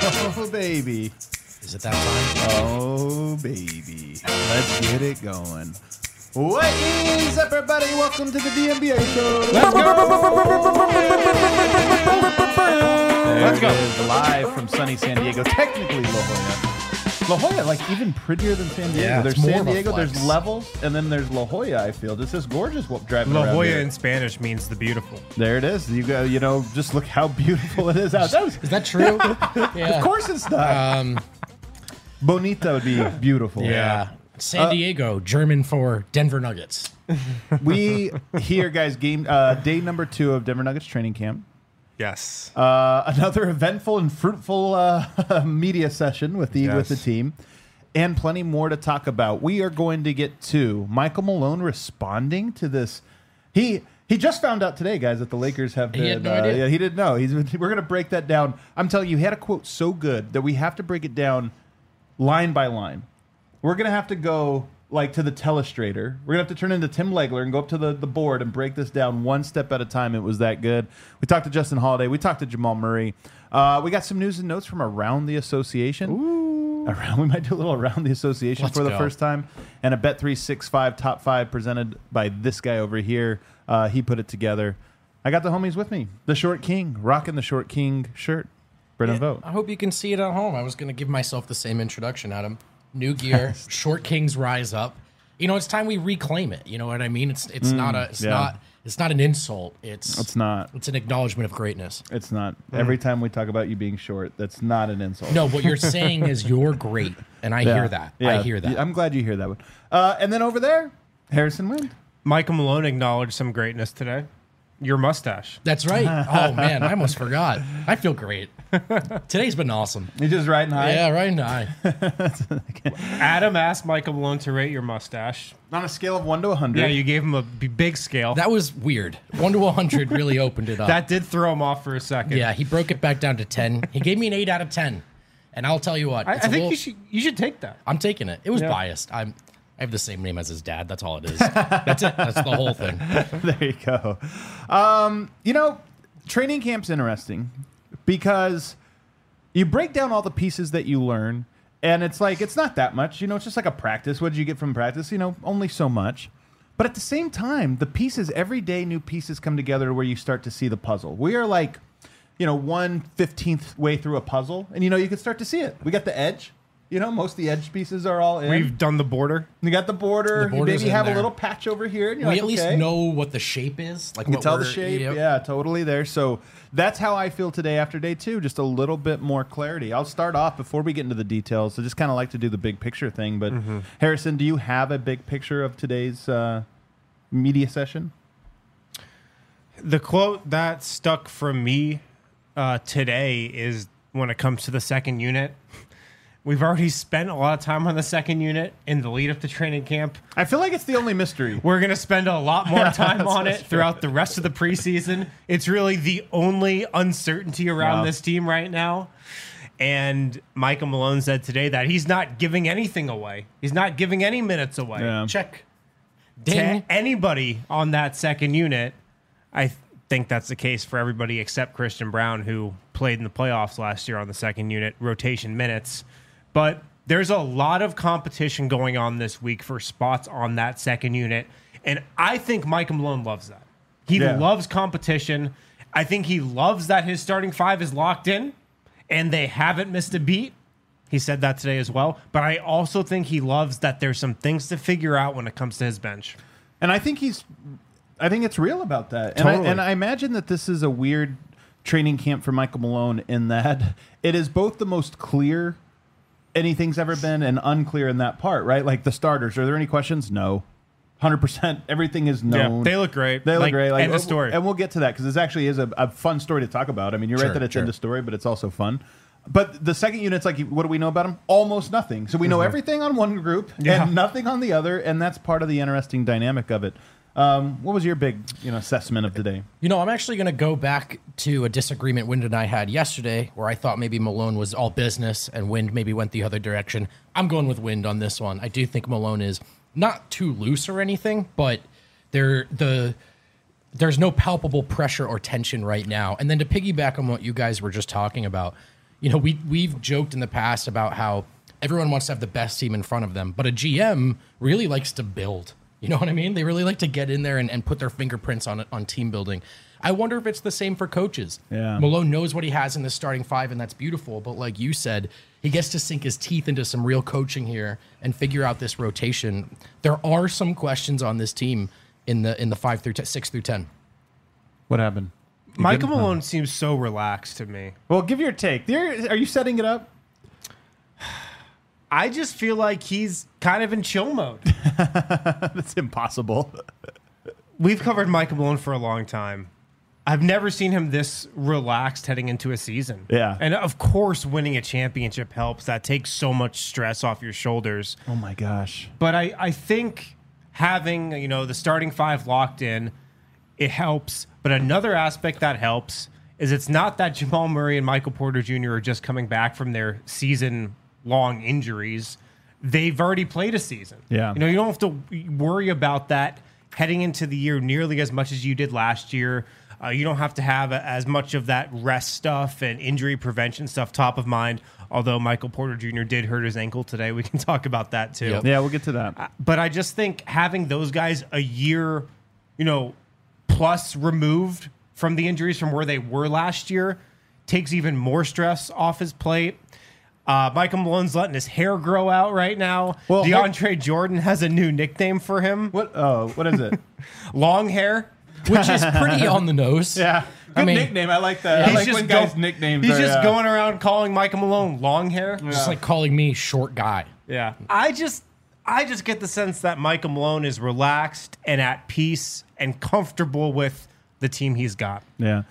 Oh, baby. Is it that time? Oh, baby. Let's get it going. What is up, everybody? Welcome to the DNBA show. Let's go. Let's go. Live from sunny San Diego, technically La Jolla. La Jolla, like even prettier than San Diego. Yeah, there's it's more San of a Diego, flex. there's levels, and then there's La Jolla, I feel. Just this gorgeous driving La around Jolla here. in Spanish means the beautiful. There it is. You go, just look how beautiful it is out. Is that true? Yeah. Of course it's not. Bonita would be beautiful. Yeah. San Diego, German for Denver Nuggets. We here, guys, game day number 2 of Denver Nuggets training camp. Yes. Another eventful and fruitful media session with the team, and plenty more to talk about. We are going to get to Michael Malone responding to this. He just found out today, guys, that the Lakers have been. He had no idea. Yeah, he didn't know. We're going to break that down. I'm telling you, he had a quote so good that we have to break it down line by line. We're going to have to go like to the telestrator. We're going to have to turn into Tim Legler and go up to the board and break this down one step at a time. It was that good. We talked to Justin Holiday. We talked to Jamal Murray. We got some news and notes from around the association. Ooh. We might do a little around the association for the first time. And a Bet365 top 5 presented by this guy over here. He put it together. I got the homies with me. The Short King, rocking the Short King shirt. Brennan Vogt. I hope you can see it at home. I was going to give myself the same introduction, Adam. New gear, Short Kings rise up. You know, it's time we reclaim it. You know what I mean? It's not an insult. It's not. It's an acknowledgement of greatness. It's not. Every time we talk about you being short, that's not an insult. No, what you're saying is you're great, and I hear that. Yeah. I hear that. I'm glad you hear that one. And then over there, Harrison Wind. Michael Malone acknowledged some greatness today. Your mustache. That's right. Oh, man, I almost forgot. I feel great. Today's been awesome. You're just riding high? Yeah, riding high. Adam asked Michael Malone to rate your mustache. On a scale of 1 to 100. Yeah, you gave him a big scale. That was weird. 1 to 100 really opened it up. That did throw him off for a second. Yeah, he broke it back down to 10. He gave me an 8 out of 10. And I'll tell you what. I think you should take that. I'm taking it. It was biased. I have the same name as his dad. That's all it is. That's it. That's the whole thing. There you go. Training camp's interesting because you break down all the pieces that you learn, and it's like, it's not that much. It's just like a practice. What did you get from practice? Only so much. But at the same time, the pieces, every day new pieces come together where you start to see the puzzle. We are like, 1/15th way through a puzzle, and you can start to see it. We got the edge. Most of the edge pieces are all in. We've done the border. You got the border. You maybe have a little patch over here. We at least know what the shape is. Like, you can tell the shape. Yep. Yeah, totally there. So that's how I feel today after day 2. Just a little bit more clarity. I'll start off before we get into the details. I just kind of like to do the big picture thing. But Harrison, do you have a big picture of today's media session? The quote that stuck from me today is when it comes to the second unit. We've already spent a lot of time on the second unit in the lead up to training camp. I feel like it's the only mystery. We're going to spend a lot more time on it throughout the rest of the preseason. It's really the only uncertainty around this team right now. And Michael Malone said today that he's not giving anything away. He's not giving any minutes away. Yeah. Check. To Ding. anybody on that second unit. I think that's the case for everybody except Christian Brown, who played in the playoffs last year on the second unit, rotation minutes. But there's a lot of competition going on this week for spots on that second unit. And I think Michael Malone loves that. He loves competition. I think he loves that his starting 5 is locked in and they haven't missed a beat. He said that today as well. But I also think he loves that there's some things to figure out when it comes to his bench. And I think it's real about that. Totally. And I imagine that this is a weird training camp for Michael Malone in that it is both the most clear anything's ever been and unclear in that part, right? Like the starters. Are there any questions? No. 100%. Everything is known. Yeah, they look great. They look great. Like, end of story. And we'll get to that because it actually is a fun story to talk about. I mean, you're right that it's end of story, but it's also fun. But the second unit's like, what do we know about them? Almost nothing. So we know everything on one group and nothing on the other, and that's part of the interesting dynamic of it. What was your big assessment of today? I'm actually going to go back to a disagreement Wind and I had yesterday where I thought maybe Malone was all business and Wind maybe went the other direction. I'm going with Wind on this one. I do think Malone is not too loose or anything, but there's no palpable pressure or tension right now. And then to piggyback on what you guys were just talking about, we've joked in the past about how everyone wants to have the best team in front of them, but a GM really likes to build. You know what I mean? They really like to get in there and put their fingerprints on team building. I wonder if it's the same for coaches. Yeah. Malone knows what he has in the starting five, and that's beautiful. But like you said, he gets to sink his teeth into some real coaching here and figure out this rotation. There are some questions on this team in the 5 through 6 through 10. What happened? You Michael good? Malone seems so relaxed to me. Well, give your take. Are you setting it up? I just feel like he's kind of in chill mode. That's impossible. We've covered Michael Malone for a long time. I've never seen him this relaxed heading into a season. Yeah. And of course, winning a championship helps. That takes so much stress off your shoulders. Oh my gosh. But I think having, the starting five locked in, it helps. But another aspect that helps is it's not that Jamal Murray and Michael Porter Jr. are just coming back from their season-long injuries. They've already played a season. Yeah. You don't have to worry about that heading into the year nearly as much as you did last year. You don't have to have as much of that rest stuff and injury prevention stuff top of mind. Although Michael Porter Jr. did hurt his ankle today. We can talk about that too. Yep. Yeah, we'll get to that. But I just think having those guys a year, plus removed from the injuries from where they were last year takes even more stress off his plate. Michael Malone's letting his hair grow out right now. Well, DeAndre Jordan has a new nickname for him. What is it? Long hair. Which is pretty on the nose. Yeah. Good nickname. I like that. I like when guys' nicknames He's are, just going around calling Michael Malone long hair. Just like calling me short guy. Yeah. I just get the sense that Michael Malone is relaxed and at peace and comfortable with the team he's got. Yeah.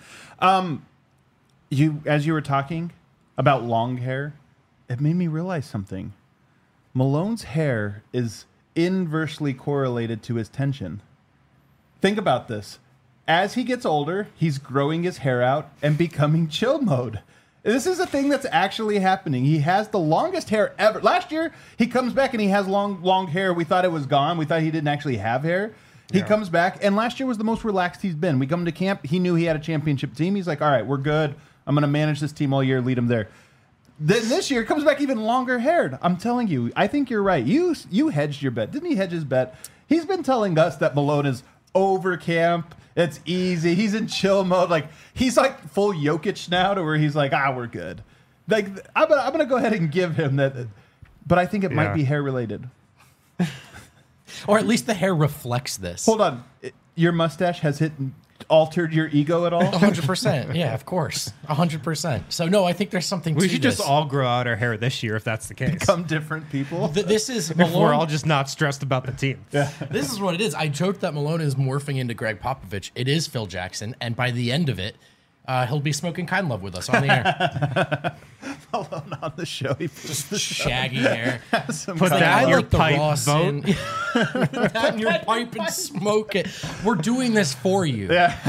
As you were talking about long hair, it made me realize something. Malone's hair is inversely correlated to his tension. Think about this. As he gets older, he's growing his hair out and becoming chill mode. This is a thing that's actually happening. He has the longest hair ever. Last year, he comes back and he has long hair. We thought it was gone. We thought he didn't actually have hair. He comes back, and last year was the most relaxed he's been. We come to camp. He knew he had a championship team. He's like, all right, we're good. I'm going to manage this team all year, lead them there. Then this year, comes back even longer haired. I'm telling you, I think you're right. You hedged your bet. Didn't he hedge his bet? He's been telling us that Malone is over camp. It's easy. He's in chill mode. Like, he's like full Jokic now to where he's like, we're good. Like, I'm gonna go ahead and give him that. But I think it might be hair related. Or at least the hair reflects this. Hold on. Your mustache has altered your ego at all? 100%. Yeah, of course. 100%. So, no, I think there's something to We should this. just all grow out our hair this year if that's the case. Become different people. This is If Malone. we're all just not stressed about the team. Yeah. This is what it is. I joked that Malone is morphing into Greg Popovich. It is Phil Jackson, and by the end of it, he'll be smoking Kind Love with us on the air. Malone on the show. He Just shaggy hair. some Put kind that of- in your like the pipe, raw vote. sin. Put that in your pipe and smoke it. We're doing this for you.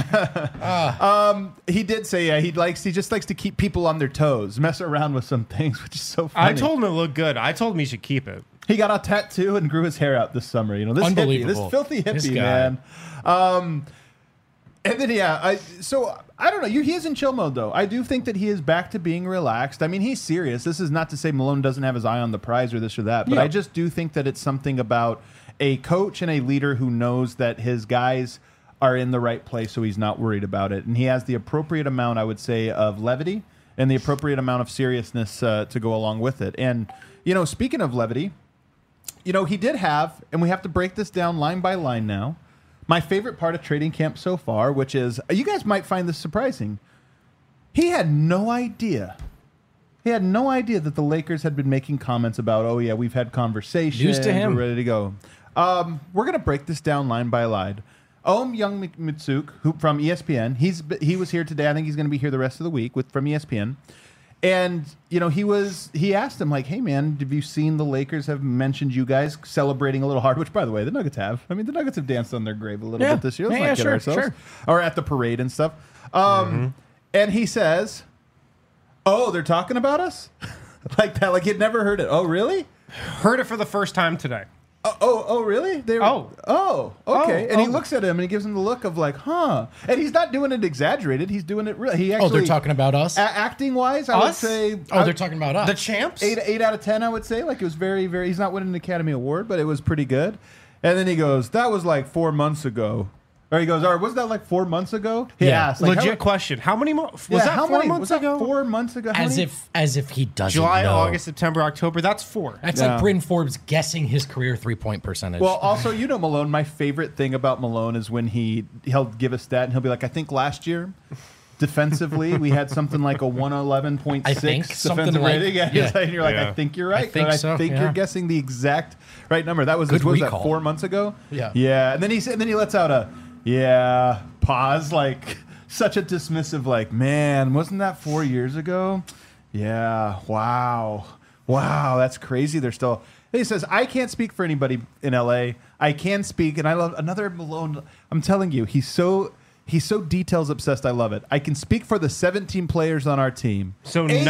He did say he just likes to keep people on their toes, mess around with some things, which is so funny. I told him it looked good. I told him he should keep it. he got a tattoo and grew his hair out this summer. This hippie, Unbelievable. this filthy This hippie, guy. man. And then I don't know. He is in chill mode though. I do think that he is back to being relaxed. I mean, he's serious. This is not to say Malone doesn't have his eye on the prize or this or that, but Yeah. I just do think that it's something about a coach and a leader who knows that his guys are in the right place, so he's not worried about it, and he has the appropriate amount, I would say, of levity and the appropriate amount of seriousness to go along with it. And speaking of levity, he did have, and we have to break this down line by line now. My favorite part of training camp so far, which is, you guys might find this surprising. He had no idea. He had no idea that the Lakers had been making comments about, oh yeah, we've had conversations. News to him. We're ready to go. We're going to break this down line by line. Ohm Young Mitsuk, who from ESPN, he was here today. I think he's going to be here the rest of the week from ESPN. And he asked him like, "Hey man, have you seen the Lakers have mentioned you guys celebrating a little hard?" Which, by the way, the Nuggets have. I mean, the Nuggets have danced on their grave a little bit this year. Let's not kid ourselves. Or at the parade and stuff. And he says, "Oh, they're talking about us," like that. Like he'd never heard it. Oh, really? Heard it for the first time today. Oh, really? Okay. And he looks at him and he gives him the look of like, huh? And he's not doing it exaggerated. He's doing it real. He actually. Oh, they're talking about us. Acting wise, I would say. They're talking about us. The champs. 8 out of 10, I would say. Like it was very, very. He's not winning an Academy Award, but it was pretty good. And then he goes, "That was like 4 months ago." Or he goes, "All right, was that like 4 months ago?" He asked. Like, Legit question. How many months? Was that 4 months ago? 4 months ago? How many? As if he doesn't July, know. August, September, October. That's 4. That's like Bryn Forbes guessing his career 3-point percentage. Well, also, you know Malone, my favorite thing about Malone is when he'll give a stat and he'll be like, I think last year, defensively, we had something like a 111.6 I think, something defensive like- rating. And yeah. you're like, Yeah. I think you're right. think but so, I think yeah. you're guessing the exact right number. That was, Good what was that, recall. 4 months ago? Yeah. Yeah. And then he lets out a, pause, like such a dismissive, like, man, wasn't that 4 years ago? Yeah. Wow, that's crazy. They're still. He says, I can't speak for anybody in LA. I can speak, and I love another Malone. I'm telling you, he's so details obsessed. I love it. I can speak for the 17 players on our team. So Hold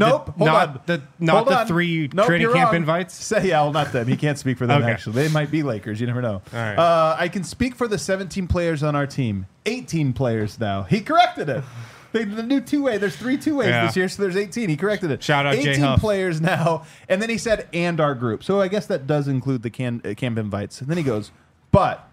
on. not the 3 Nope, training you're camp wrong. invites. Not them. He can't speak for them, Okay. actually. They might be Lakers. You never know. All right. I can speak for the 17 players on our team. 18 players now. He corrected it. The new two-way. There's 3 two-ways Yeah. this year, so there's 18. He corrected it. Shout out Jay 18 Huff. players now. And then he said, and our group. So I guess that does include the camp invites. And then he goes, but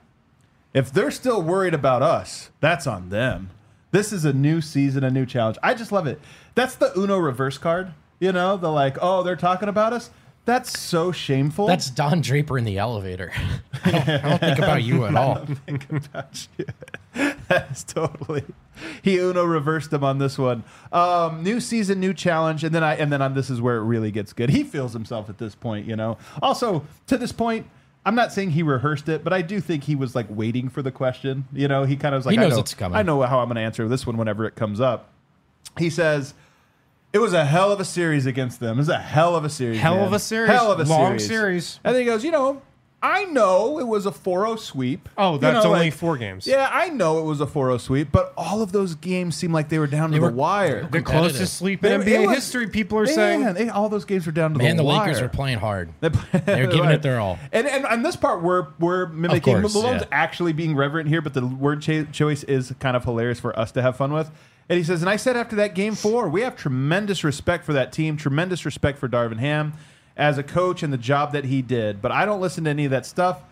if they're still worried about us, that's on them. This is a new season, a new challenge. I just love it. That's the Uno reverse card. You know, the like, oh, they're talking about us. That's so shameful. That's Don Draper in the elevator. I don't think about you at all. Think about you. That's totally. He Uno reversed him on this one. New season, new challenge, and then on this is where it really gets good. He feels himself at this point, you know. Also, to this point, I'm not saying he rehearsed it, but I do think he was like waiting for the question. You know, he kind of was like, He knows I know, it's coming. I know how I'm going to answer this one whenever it comes up. He says, it was a hell of a series against them. It was a hell of a series. Hell man. of a series. Hell of a Long series. series. And then he goes, you know, I know it was a 4-0 sweep. Oh, You that's know, only like, 4 games. Yeah, I know it was a 4-0 sweep, but all of those games seemed like they were down to the were- wire. The competitive. closest sleep They- in it NBA was- history, people are Man, saying. all those games were down to Man, the the wire. Lakers are playing hard. They're giving it their all. And on this part, we're mimicking. course, Malone's yeah. actually being reverent here, but the word choice is kind of hilarious for us to have fun with. And he says, and I said after that game 4, we have tremendous respect for that team, tremendous respect for Darvin Ham as a coach and the job that he did. But I don't listen to any of that stuff.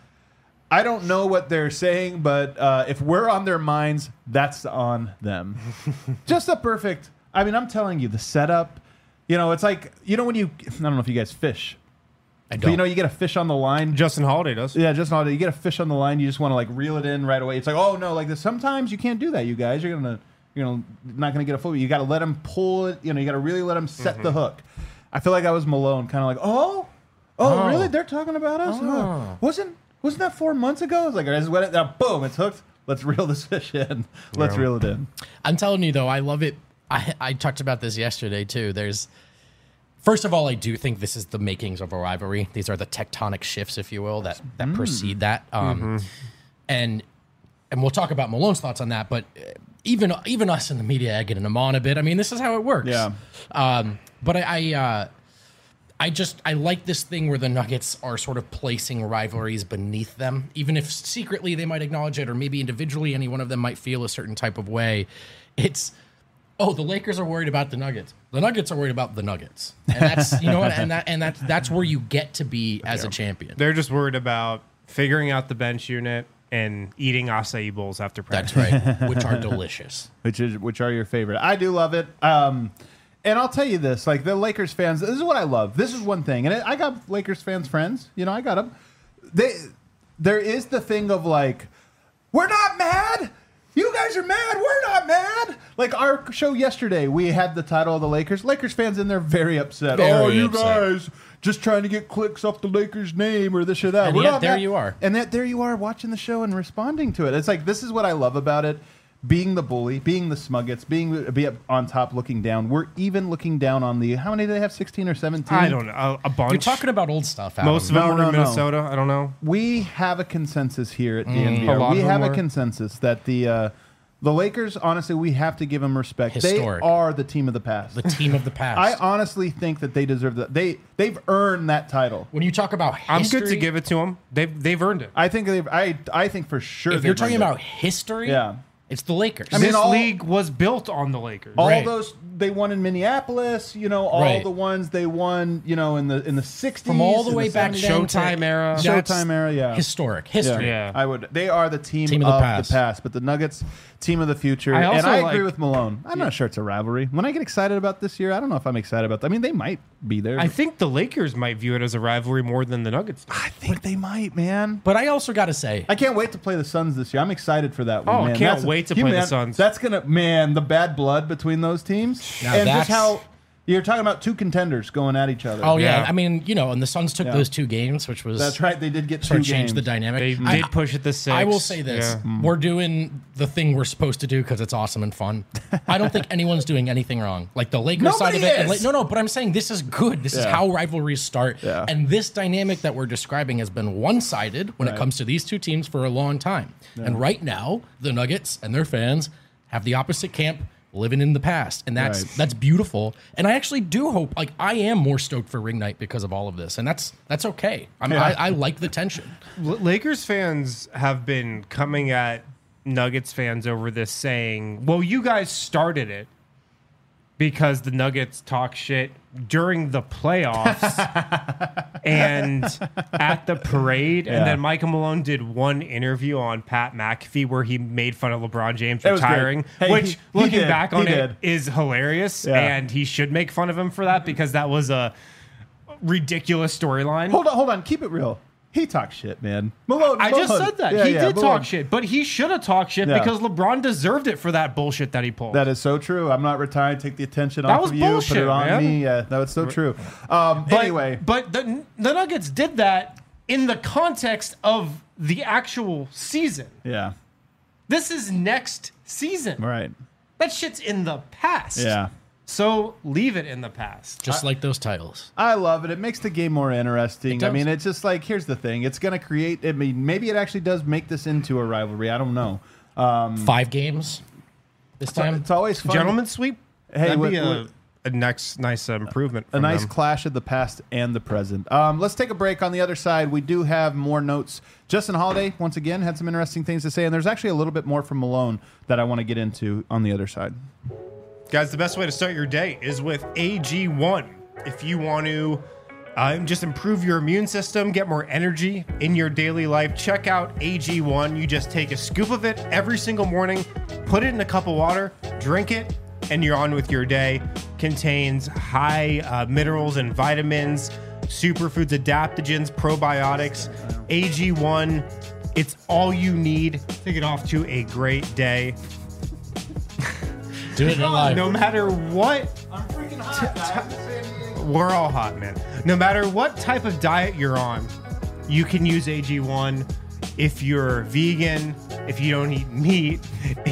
I don't know what they're saying, but if we're on their minds, that's on them. Just a perfect. I mean, I'm telling you, the setup. You know, it's like, you know, when you. I don't know if you guys fish. I But don't. you know, you get a fish on the line. Justin Holiday does. Yeah, just not. You get a fish on the line. You just want to like reel it in right away. It's like, oh no, like this. Sometimes you can't do that. You guys, you're not gonna get a full. You got to let them pull it. You know, you got to really let them set the hook. I feel like I was Malone, kind of like, oh, really? They're talking about us. Huh. Wasn't that 4 months ago? It's like, I just went it. Now, boom, it's hooked. Let's reel this fish in. Let's reel it in. I'm telling you though, I love it. I talked about this yesterday too. First of all, I do think this is the makings of a rivalry. These are the tectonic shifts, if you will, that precede that. And we'll talk about Malone's thoughts on that. But even us in the media egging him on a bit. I mean, this is how it works. Yeah. But I like this thing where the Nuggets are sort of placing rivalries beneath them, even if secretly they might acknowledge it, or maybe individually any one of them might feel a certain type of way. It's, oh, the Lakers are worried about the Nuggets. The Nuggets are worried about the Nuggets, and that's that's where you get to be as a champion. They're just worried about figuring out the bench unit and eating acai bowls after practice. That's right, which are delicious. Which are your favorite? I do love it. And I'll tell you this, like the Lakers fans, this is what I love. This is one thing, and I got Lakers fans friends. You know, I got them. There is the thing of like, we're not mad. You guys are mad. We're not mad. Like our show yesterday, we had the title of the Lakers. Lakers fans in there very upset. Very you upset. guys just trying to get clicks off the Lakers name or this or that. And We're yet not there mad. you are. And there you are watching the show and responding to it. It's like, this is what I love about it. Being the bully, being the Smuggets, be up on top looking down. We're even looking down on the, how many do they have, 16 or 17? I don't know. A bunch. You're talking about old stuff, Adam. Most of them No, were no, in no. Minnesota. I don't know. We have a consensus here at A DNVR. lot We of them have a were. consensus that the The Lakers, honestly, we have to give them respect. Historic. They are the team of the past. The team of the past. I honestly think that they deserve that. They've earned that title. When you talk about history, I'm good to give it to them. They've earned it. I think I think for sure. if you're they've talking earned it. about history, Yeah. it's the Lakers. I mean, This all- league was built on the Lakers. all Right. those they won in Minneapolis, all Right. the ones they won, in the 60s, From all the in way back 70s. then to- Showtime era. That's Showtime era, yeah. historic history. Yeah. I would. They are the team Team of of the the past. But the Nuggets, team of the future. I And also I agree like- with Malone. I'm not sure it's a rivalry. When I get excited about this year, I don't know if I'm excited about. I mean, they might be there. I think the Lakers might view it as a rivalry more than the Nuggets do. I think they might, man. But I also got to say, I can't wait to play the Suns this year. I'm excited for that one. Oh, I man. can't wait to play the Suns. That's gonna, the bad blood between those teams, Now and just that's- how you're talking about two contenders going at each other. oh yeah, Yeah. I mean, and the Suns took Yeah. those 2 games, which was That's right. They did get sort two of changed the games. dynamic. They I- did push it to 6. I will say this: Yeah. we're doing the thing we're supposed to do because it's awesome and fun. I don't think anyone's doing anything wrong. Like the Lakers side of Nobody it. And is! no, but I'm saying this is good. This is Yeah. how rivalries start. Yeah. And this dynamic that we're describing has been one-sided when Right. it comes to these 2 teams for a long time. And right now, the Nuggets and their fans have the opposite camp living in the past, and Right. that's beautiful. And I actually do hope, I am more stoked for ring night because of all of this, and that's okay. I like the tension. Lakers fans have been coming at Nuggets fans over this saying, well, you guys started it because the Nuggets talk shit during the playoffs and at the parade. Yeah. And then Michael Malone did one interview on Pat McAfee where he made fun of LeBron James It was great. retiring, Hey, which he looking did. back on He it did. is hilarious. Yeah. And he should make fun of him for that because that was a ridiculous storyline. Hold on. Keep it real. He talks shit, man. Malone. I just Malone. said that. Yeah, He yeah, did Malone. talk shit, but he should have talked shit Yeah. because LeBron deserved it for that bullshit that he pulled. That is so true. I'm not retired. Take the attention off was of you. Put bullshit, it on man. me. Yeah, that was so true. but, Anyway, but the Nuggets did that in the context of the actual season. yeah, This is next season. right. That shit's in the past. Yeah. So leave it in the past. Just like those titles. I love it. It makes the game more interesting. It does. I mean, it's just like, here's the thing. It's going to create, maybe it actually does make this into a rivalry. I don't know. 5 games this time. It's always fun. Gentlemen sweep. Hey, That'd be what- a next nice improvement. A From nice them. clash of the past and the present. Let's take a break. On the other side, we do have more notes. Justin Holiday, once again, had some interesting things to say, and there's actually a little bit more from Malone that I want to get into on the other side. Guys, the best way to start your day is with AG1. If you want to just improve your immune system, get more energy in your daily life, check out AG1. You just take a scoop of it every single morning, put it in a cup of water, drink it, and you're on with your day. Contains high minerals and vitamins, superfoods, adaptogens, probiotics. AG1, it's all you need to get off to a great day. Do it in live. No matter what, I'm freaking hot, we're all hot, man. No matter what type of diet you're on, you can use AG1. If you're vegan, if you don't eat meat,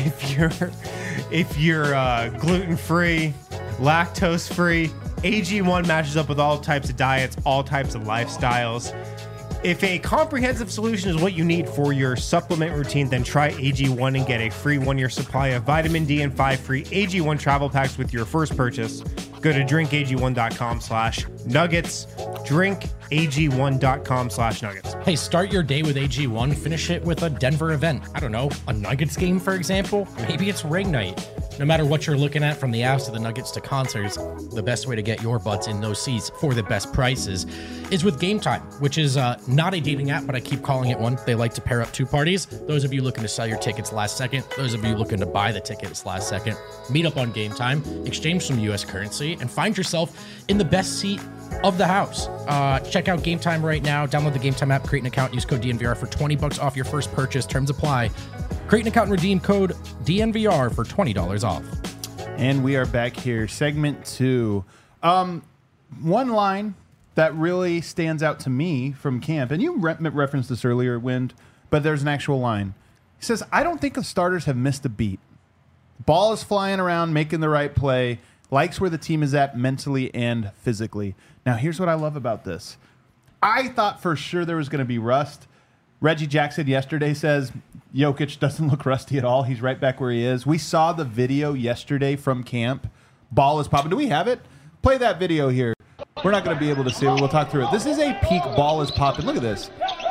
if you're gluten-free, lactose-free, AG1 matches up with all types of diets, all types of lifestyles. If a comprehensive solution is what you need for your supplement routine, then try AG1 and get a free 1-year supply of vitamin D and 5 free AG1 travel packs with your first purchase. Go to drinkag1.com/nuggets. Drinkag1.com/nuggets. Hey, start your day with AG1, finish it with a Denver event. I don't know, a Nuggets game, for example. Maybe it's ring night. No matter what you're looking at, from the Avs to the Nuggets to concerts, the best way to get your butts in those seats for the best prices is with Game Time, which is not a dating app, but I keep calling it one. They like to pair up 2 parties. Those of you looking to sell your tickets last second, those of you looking to buy the tickets last second, meet up on Game Time, exchange some U.S. currency, and find yourself in the best seat of the house. Check out Game Time right now. Download the Game Time app, create an account, use code DNVR for $20 off your first purchase. Terms apply. Create an account and redeem code DNVR for $20 off. And we are back here, segment 2. One line that really stands out to me from camp, and you referenced this earlier, Wind, but there's an actual line. He says, I don't think the starters have missed a beat. Ball is flying around, making the right play, likes where the team is at mentally and physically. Now, here's what I love about this. I thought for sure there was going to be rust. Reggie Jackson yesterday says Jokic doesn't look rusty at all. He's right back where he is. We saw the video yesterday from camp. Ball is popping. Do we have it? Play that video here. We're not going to be able to see it. We'll talk through it. This is a peak ball is popping. Look at this.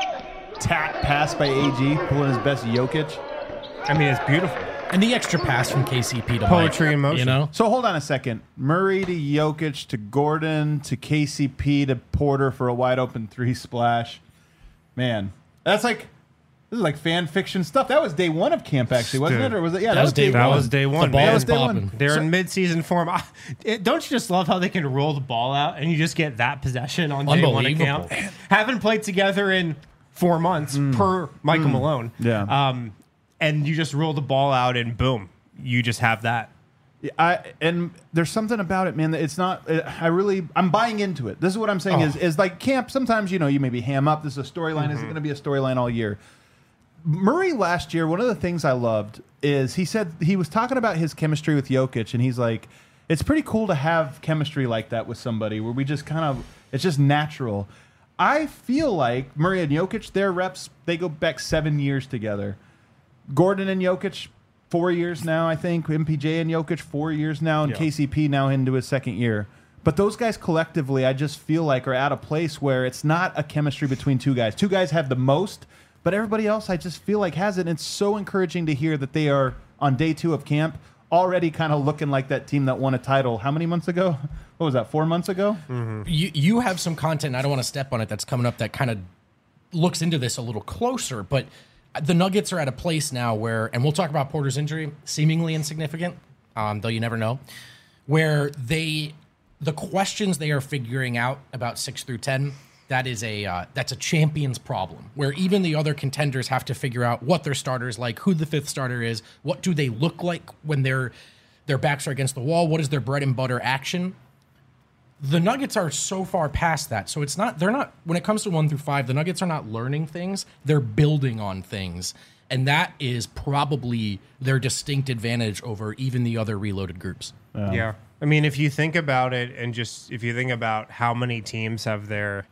Tap pass by AG, pulling his best Jokic. I mean, it's beautiful. And the extra pass from KCP to Poetry Mike, in motion. You know? So hold on a second. Murray to Jokic to Gordon to KCP to Porter for a wide open 3 splash. Man, this is like fan fiction stuff. That was day 1 of camp, actually, wasn't Dude, it? Or was it? Yeah, that was day That one. was day one. The ball man. was day one. popping. They're in mid-season form. Don't you just love how they can roll the ball out and you just get that possession on day 1 of camp? Haven't played together in 4 months per Michael Malone. Yeah. And you just roll the ball out and boom, you just have that. And there's something about it, man. That it's not. I'm buying into it. This is what I'm saying. Is like camp. Sometimes you maybe ham up. This is a storyline. Is it going to be a storyline all year? Murray last year, one of the things I loved is he said he was talking about his chemistry with Jokic, and he's like, it's pretty cool to have chemistry like that with somebody where we just it's just natural. I feel like Murray and Jokic, their reps, they go back 7 years together. Gordon and Jokic, 4 years now, I think. MPJ and Jokic, 4 years now, and KCP now into his 2nd year. But those guys collectively, I just feel like are at a place where it's not a chemistry between 2 guys. 2 guys have the most, but everybody else, I just feel like has it. And it's so encouraging to hear that they are on day 2 of camp already kind of looking like that team that won a title. How many months ago? What was that, 4 months ago? Mm-hmm. You have some content, and I don't want to step on it, that's coming up that kind of looks into this a little closer, but the Nuggets are at a place now where, and we'll talk about Porter's injury, seemingly insignificant, though you never know, where the questions they are figuring out about 6 through 10, that's a champion's problem, where even the other contenders have to figure out what their starters like, who the 5th starter is, what do they look like when their backs are against the wall, what is their bread and butter action. The Nuggets are so far past that. So they're not, when it comes to 1 through 5, the Nuggets are not learning things, they're building on things. And that is probably their distinct advantage over even the other reloaded groups. Yeah. I mean, if you think about it and just if you think about how many teams have their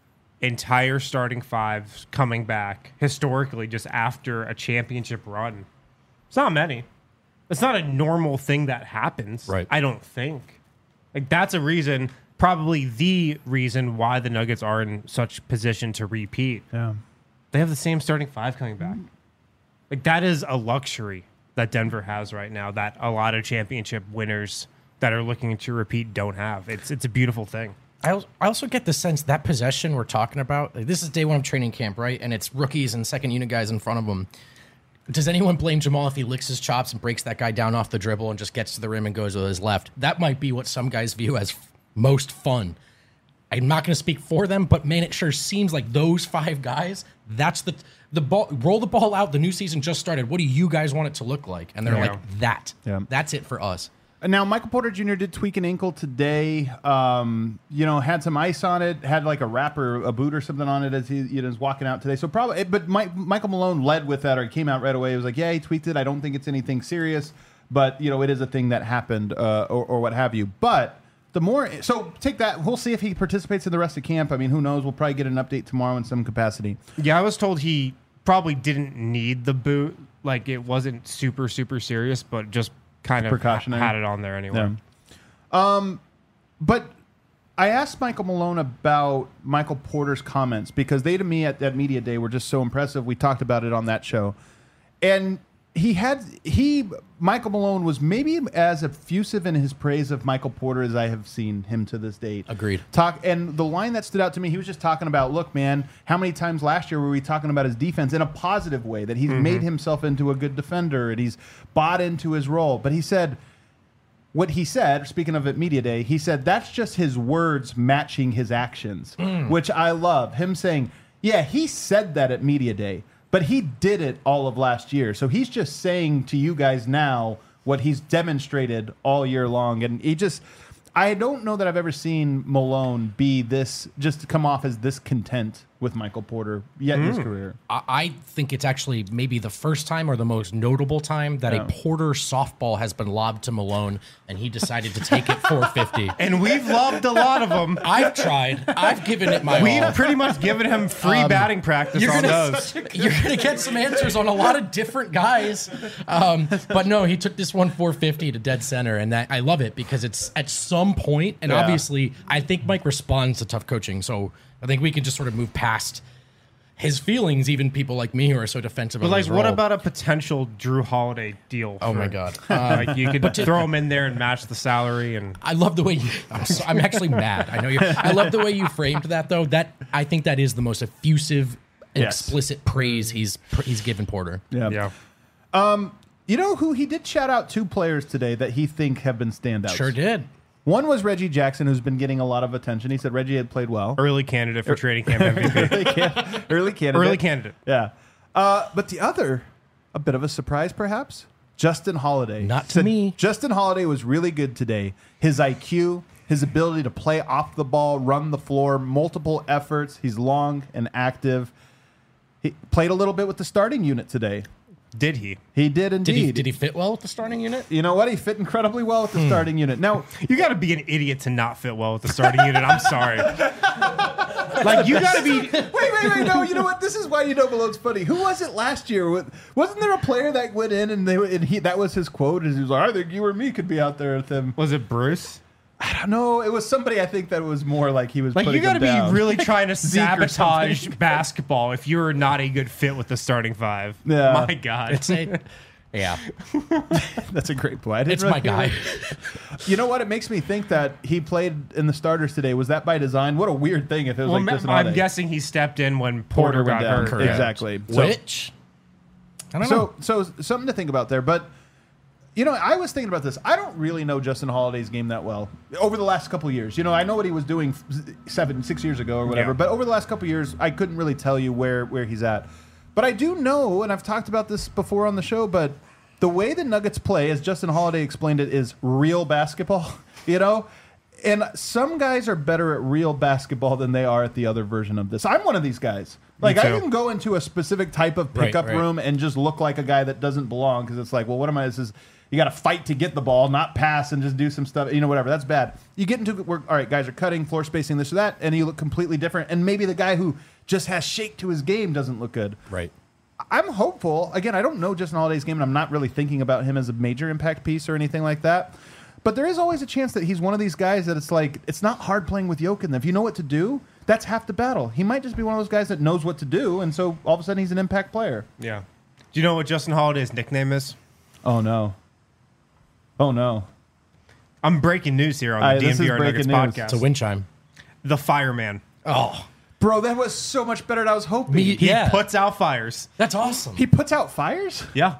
entire starting 5 coming back historically just after a championship run, it's not many. It's not a normal thing that happens. Right. I don't think. Like, that's a reason, probably the reason why the Nuggets are in such position to repeat. Yeah. They have the same starting 5 coming back. Like, that is a luxury that Denver has right now that a lot of championship winners that are looking to repeat don't have. It's a beautiful thing. I also get the sense that possession we're talking about, like, this is day 1 of training camp, right? And it's rookies and 2nd unit guys in front of them. Does anyone blame Jamal if he licks his chops and breaks that guy down off the dribble and just gets to the rim and goes with his left? That might be what some guys view as most fun. I'm not going to speak for them, but man, it sure seems like those 5 guys, that's the ball. Roll the ball out. The new season just started. What do you guys want it to look like? And they're like, that. Yeah. That's it for us. Now, Michael Porter Jr. did tweak an ankle today. Had some ice on it, had like a wrap or a boot or something on it as he was walking out today. So probably, but Michael Malone led with that, or he came out right away. He was like, "Yeah, he tweaked it. I don't think it's anything serious, but it is a thing that happened, or what have you." But the more, so take that. We'll see if he participates in the rest of camp. I mean, who knows? We'll probably get an update tomorrow in some capacity. Yeah, I was told he probably didn't need the boot. Like, it wasn't super, super serious, but just kind of precautionary. Had it on there anyway. Yeah. But I asked Michael Malone about Michael Porter's comments because they, to me, at that media day were just so impressive. We talked about it on that show. And Michael Malone was maybe as effusive in his praise of Michael Porter as I have seen him to this date. Agreed. And the line that stood out to me, he was just talking about, look, man, how many times last year were we talking about his defense in a positive way, that he's made himself into a good defender and he's bought into his role. But he said, what he said, speaking of at media day, he said that's just his words matching his actions, which I love. Him saying, yeah, he said that at media day, but he did it all of last year. So he's just saying to you guys now what he's demonstrated all year long. And I don't know that I've ever seen Malone be this, just to come off as this content with Michael Porter yet in his career. I think it's actually maybe the first time or the most notable time that a Porter softball has been lobbed to Malone, and he decided to take it 450. And we've lobbed a lot of them. I've tried. I've given it my all. We've pretty much given him free batting practice on those. You're going to get some answers on a lot of different guys. But no, he took this one 450 to dead center, and that I love it because it's at some point, and obviously I think Mike responds to tough coaching, so I think we can just sort of move past his feelings, even people like me who are so defensive. But like, what about a potential Drew Holiday deal? Oh my God! Like you could throw him in there and match the salary. And I love the way you. I'm actually mad. I know you. I love the way you framed that, though. That I think that is the most effusive, and explicit praise he's given Porter. Yeah. You know who he did shout out 2 players today that he think have been standouts. Sure did. One was Reggie Jackson, who's been getting a lot of attention. He said Reggie had played well. early candidate for training camp MVP. Early candidate. Early candidate. Yeah. But the other, a bit of a surprise perhaps, Justin Holiday. Not to me. Justin Holiday was really good today. His IQ, his ability to play off the ball, run the floor, multiple efforts. He's long and active. He played a little bit with the starting unit today. Did he? He did indeed. Did he fit well with the starting unit? You know what? He fit incredibly well with the starting unit. Now, You got to be an idiot to not fit well with the starting unit. I'm sorry. Like, you got to be. Wait. No, you know what? This is why you know Malone's funny. Who was it last year? Wasn't there a player that went in and that was his quote? And he was like, I think you or me could be out there with him. Was it Bruce? I don't know. It was somebody I think that was more like he was Like, putting you got to him down. be really trying to Zeke or sabotage something. basketball if you're not a good fit with the starting 5. Yeah. My God. Yeah, That's a great point. I didn't it's really my think guy. of it. You know what? It makes me think that he played in the starters today. Was that by design? What a weird thing if it was Well, like this and I'm guessing he stepped in when Porter went got down. hurt. Exactly. So- Which I don't know. So something to think about there. But, you know, I was thinking about this. I don't really know Justin Holiday's game that well over the last couple of years. You know, I know what he was doing 6 years ago or whatever. Yeah. But over the last couple of years, I couldn't really tell you where he's at. But I do know, and I've talked about this before on the show, but the way the Nuggets play, as Justin Holiday explained it, is real basketball, you know? And some guys are better at real basketball than they are at the other version of this. I'm one of these guys. Like, I too. can go into a specific type of pickup Right. room and just look like a guy that doesn't belong because it's like, well, what am I? This is, you got to fight to get the ball, not pass and just do some stuff, you know, whatever. That's bad. You get into where, all right, guys are cutting, floor spacing, this or that, and you look completely different. And maybe the guy who just has shake to his game doesn't look good. Right. I'm hopeful. Again, I don't know Justin Holiday's game, and I'm not really thinking about him as a major impact piece or anything like that. But there is always a chance that he's one of these guys that it's like, it's not hard playing with Jokic. If you know what to do, that's half the battle. He might just be one of those guys that knows what to do, and so all of a sudden he's an impact player. Yeah. Do you know what Justin Holiday's nickname is? Oh, no. Oh, no. I'm breaking news here on the This is DNVR Nuggets breaking news. podcast. It's a wind chime. The Fireman. Oh, Bro, that was so much better than I was hoping. Me- He Yeah. puts out fires. that's awesome. He puts out fires? Yeah.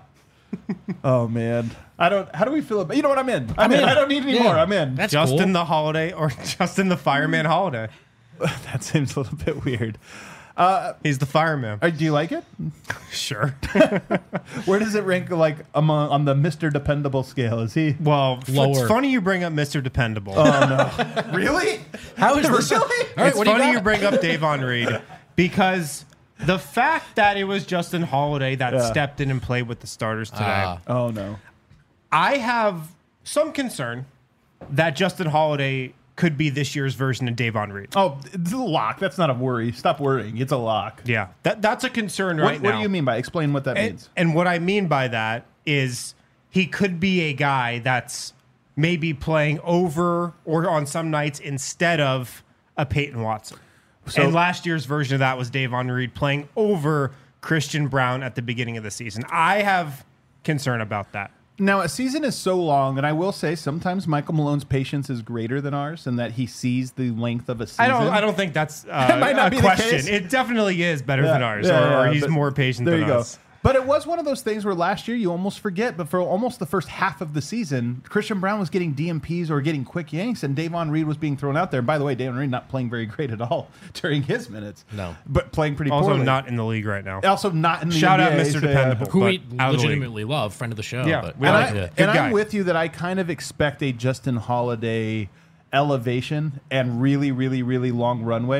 Oh, man. How do we feel about, you know what, I'm in. I'm in. in. I don't need any Yeah. more. I'm in. That's Justin cool. the Holiday or Justin the Fireman Holiday. That seems a little bit weird. He's the fireman. Do you like it? Sure. Where does it rank like on the Mr. Dependable scale? Is he Well, Lower. it's funny you bring up Mr. Dependable. really? How is this? All right, It's what do you funny got? you bring up Davon Reed because the fact that it was Justin Holiday that stepped in and played with the starters today, Oh no. I have some concern that Justin Holiday could be this year's version of Davon Reed. Oh, it's a lock. That's not a worry. Stop worrying. It's a lock. Yeah, that's a concern right now. What do you mean by explain what that means? And what I mean by that is he could be a guy that's maybe playing over or on some nights instead of a Peyton Watson. So- and last year's version of that was Davon Reed playing over Christian Brown at the beginning of the season. I have concern about that. Now, a season is so long, and I will say sometimes Michael Malone's patience is greater than ours, and that he sees the length of a season. I don't think that's might not a be the question. case. It definitely is better Yeah, than ours, yeah, or yeah, he's but more patient there than you go. us. But it was one of those things where last year you almost forget, but for almost the first half of the season, Christian Brown was getting DMPs or getting quick yanks, and Davon Reed was being thrown out there. And by the way, Davon Reed not playing very great at all during his minutes. No. But playing pretty Also poorly. not in the league right now. Also not in the Shout out NBA, Mr. so, Dependable. Who but we out of the league. legitimately love, friend of the show. Yeah, but we And, like I, it. and Good guy. I'm with you that I kind of expect a Justin Holiday elevation and really, really, really long runway.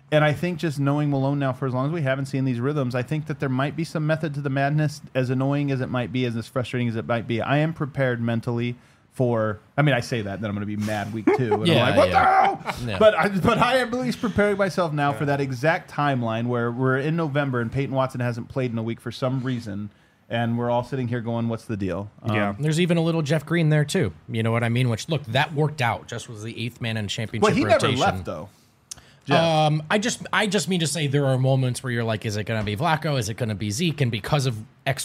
And I think just knowing Malone now for as long as we haven't seen these rhythms, I think that there might be some method to the madness, as annoying as it might be, as frustrating as it might be. I am prepared mentally for, I mean, I say that, then I'm going to be mad week 2. And I'm like, what the hell? Yeah. But I am at least preparing myself now for that exact timeline where we're in November and Peyton Watson hasn't played in a week for some reason. And we're all sitting here going, what's the deal? There's even a little Jeff Green there, too. You know what I mean? Which, look, that worked out. Just was the 8th man in championship rotation. Well, he never left, though. I just mean to say there are moments where you're like, is it going to be Vlaco? Is it going to be Zeke? And because of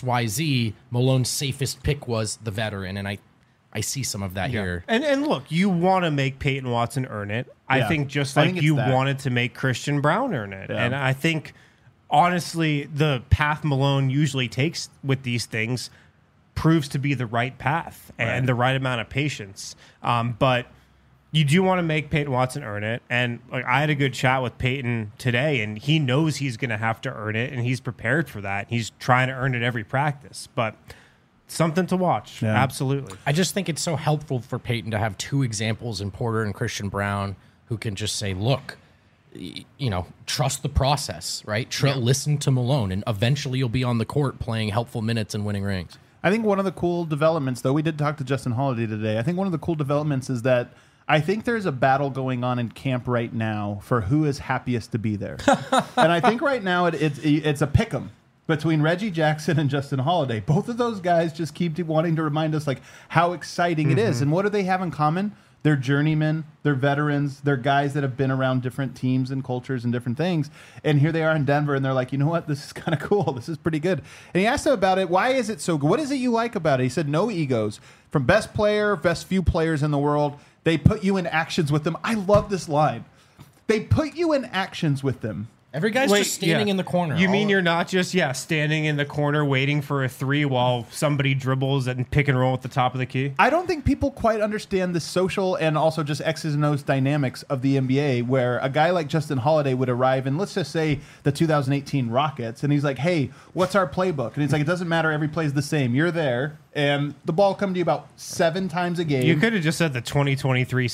XYZ, Malone's safest pick was the veteran. And I see some of that here. And look, you want to make Peyton Watson earn it. I think just like you wanted to make Christian Brown earn it. Yeah. And I think, honestly, the path Malone usually takes with these things proves to be the right path and the right amount of patience. But you do want to make Peyton Watson earn it. And like, I had a good chat with Peyton today, and he knows he's going to have to earn it, and he's prepared for that. He's trying to earn it every practice. But something to watch. Yeah. Absolutely. I just think it's so helpful for Peyton to have 2 examples in Porter and Christian Brown who can just say, look, you know, trust the process, right? Listen to Malone, and eventually you'll be on the court playing helpful minutes and winning rings. I think one of the cool developments, though, we did talk to Justin Holiday today. I think one of the cool developments is that I think there's a battle going on in camp right now for who is happiest to be there. And I think right now it's a pick'em between Reggie Jackson and Justin Holiday. Both of those guys just keep wanting to remind us like how exciting it is. And what do they have in common? They're journeymen, they're veterans, they're guys that have been around different teams and cultures and different things. And here they are in Denver, and they're like, you know what? This is kind of cool. This is pretty good. And he asked him about it. Why is it so good? What is it you like about it? He said, no egos. From best player, best few players in the world, they put you in actions with them. I love this line. They put you in actions with them. Every guy's just standing in the corner. You mean you're not just, standing in the corner waiting for a 3 while somebody dribbles and pick and roll at the top of the key? I don't think people quite understand the social and also just X's and O's dynamics of the NBA, where a guy like Justin Holiday would arrive in, let's just say, the 2018 Rockets, and he's like, hey, what's our playbook? And he's like, it doesn't matter, every play's the same. You're there, and the ball come to you about 7 times a game. You could have just said the 2023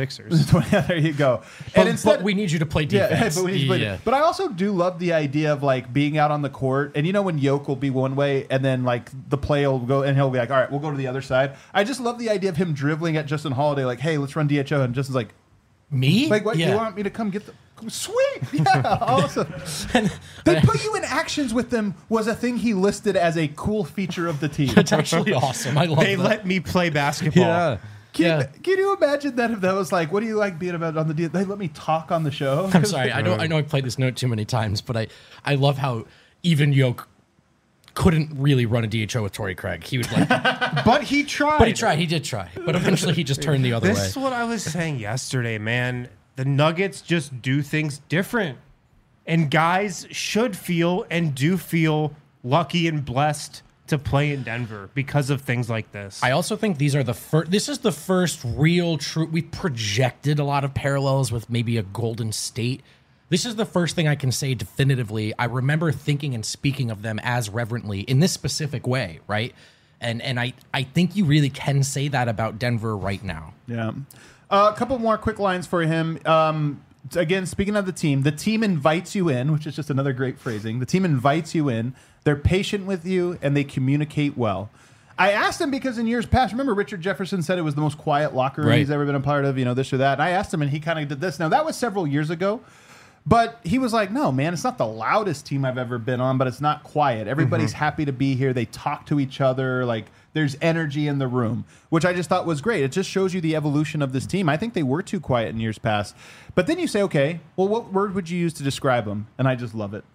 76ers. There you go. But we need you to play defense. But I also do love the idea of like being out on the court, and you know when Yoke will be one way, and then like the play will go, and he'll be like, all right, we'll go to the other side. I just love the idea of him dribbling at Justin Holiday, like, hey, let's run DHO, and Justin's like, me? Like, what? You want me to come get the... Sweet! Yeah, awesome. They put you in actions with them was a thing he listed as a cool feature of the team. It's actually awesome. I love They let me play basketball. Yeah. Can you imagine that if that was like, what do you like being about on the deal? They let me talk on the show. I'm sorry. I know I've played this note too many times, but I love how even Yoke couldn't really run a DHO with Torrey Craig. He would like, but he tried. He did try. But eventually he just turned the other way. This is what I was saying yesterday, man. The Nuggets just do things different. And guys should feel and do feel lucky and blessed to play in Denver because of things like this. I also think these are this is the first real true. We projected a lot of parallels with maybe a Golden State. This is the first thing I can say definitively. I remember thinking and speaking of them as reverently in this specific way, right? And I think you really can say that about Denver right now. Yeah. A couple more quick lines for him. Again, speaking of the team invites you in, which is just another great phrasing. The team invites you in. They're patient with you, and they communicate well. I asked him because in years past, remember Richard Jefferson said it was the most quiet locker room he's ever been a part of, this or that. And I asked him, and he kind of did this. Now, that was several years ago. But he was like, no, man, it's not the loudest team I've ever been on, but it's not quiet. Everybody's happy to be here. They talk to each other. Like, there's energy in the room, which I just thought was great. It just shows you the evolution of this team. I think they were too quiet in years past. But then you say, okay, well, what word would you use to describe them? And I just love it.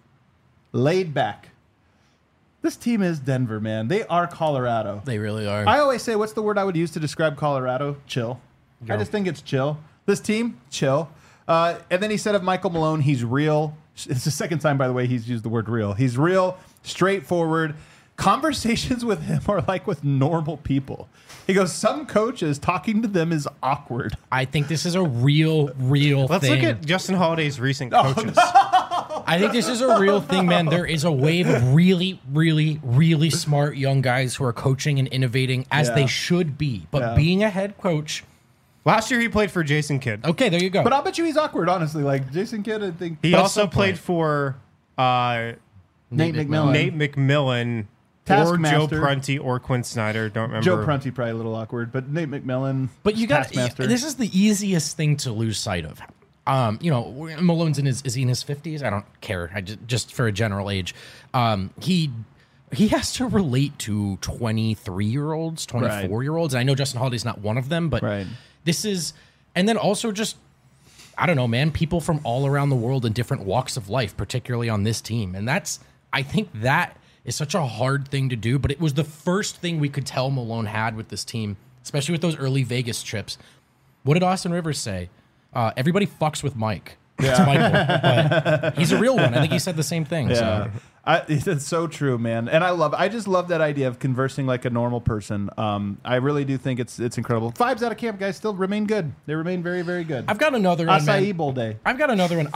Laid back. This team is Denver, man. They are Colorado. They really are. I always say, what's the word I would use to describe Colorado? Chill. I just think it's chill. This team, chill. And then he said of Michael Malone, he's real. It's the second time, by the way, he's used the word real. He's real, straightforward. Conversations with him are like with normal people. He goes, some coaches, talking to them is awkward. I think this is a real Let's thing. look at Justin Holiday's recent coaches. I think this is a real thing, man. There is a wave of really, really, really smart young guys who are coaching and innovating as they should be. But being a head coach, Last year he played for Jason Kidd. Okay, there you go. But I'll bet you he's awkward, honestly. Like Jason Kidd, I think. He But at also some played point- for Nate McMillan. Nate McMillan or Taskmaster. Joe Prunty or Quinn Snyder. Don't remember. Joe Prunty probably a little awkward, but Nate McMillan. But you got Taskmaster. this is the easiest thing to lose sight of. Malone's is he in his 50s? I don't care. I just for a general age. He has to relate to 23-year-olds, 24-year-olds. And I know Justin Holiday's not one of them, but Right. this is, and then also just, I don't know, man, people from all around the world in different walks of life, particularly on this team. And I think that is such a hard thing to do, but it was the first thing we could tell Malone had with this team, especially with those early Vegas trips. What did Austin Rivers say? Everybody fucks with Mike. It's Michael, but he's a real one. I think he said the same thing. Yeah. So. It's so true, man. And I just love that idea of conversing like a normal person. I really do think it's incredible. Vibes out of camp, guys, still remain good. They remain very, very good. I've got another one, man. Acai Bowl day. I've got another one.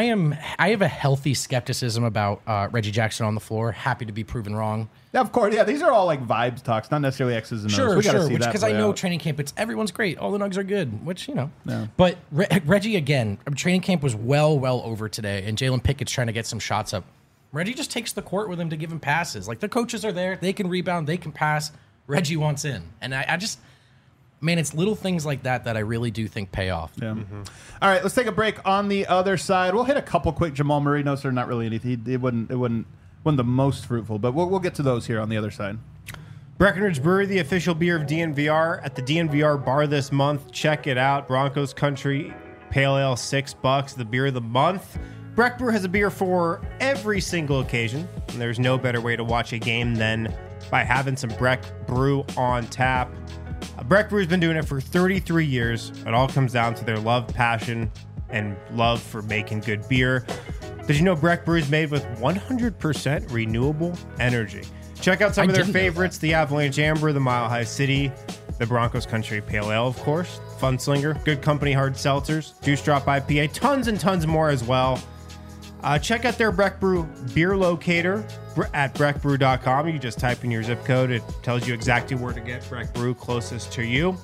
I have a healthy skepticism about Reggie Jackson on the floor. Happy to be proven wrong. Yeah, of course. Yeah, these are all like vibes talks, not necessarily X's and O's. Sure, We gotta sure. see that Because I play know out. training camp, everyone's great. All the Nugs are good, which, Yeah. But Reggie, again, training camp was well over today, and Jalen Pickett's trying to get some shots up. Reggie just takes the court with him to give him passes. Like, the coaches are there. They can rebound. They can pass. Reggie wants in. And I just, man, it's little things like that I really do think pay off. Yeah. All right, let's take a break. On the other side, we'll hit a couple quick Jamal Murray notes. They're not really anything. It wasn't the most fruitful, but we'll get to those here on the other side. Breckenridge Brewery, the official beer of DNVR, at the DNVR bar this month. Check it out. Broncos Country Pale Ale, $6, the beer of the month. Breck Brew has a beer for every single occasion, and there's no better way to watch a game than by having some Breck Brew on tap. Breck Brew has been doing it for 33 years. It all comes down to their love, passion, and love for making good beer. Did you know Breck Brew is made with 100% renewable energy? Check out some of their didn't know favorites, the Avalanche Amber, the Mile High City, the Broncos Country Pale Ale, of course, Funslinger, Good Company Hard Seltzers, Juice Drop IPA, tons and tons more as well. Check out their Breck Brew beer locator at breckbrew.com. You just type in your zip code. It tells you exactly where to get Breck Brew closest to you.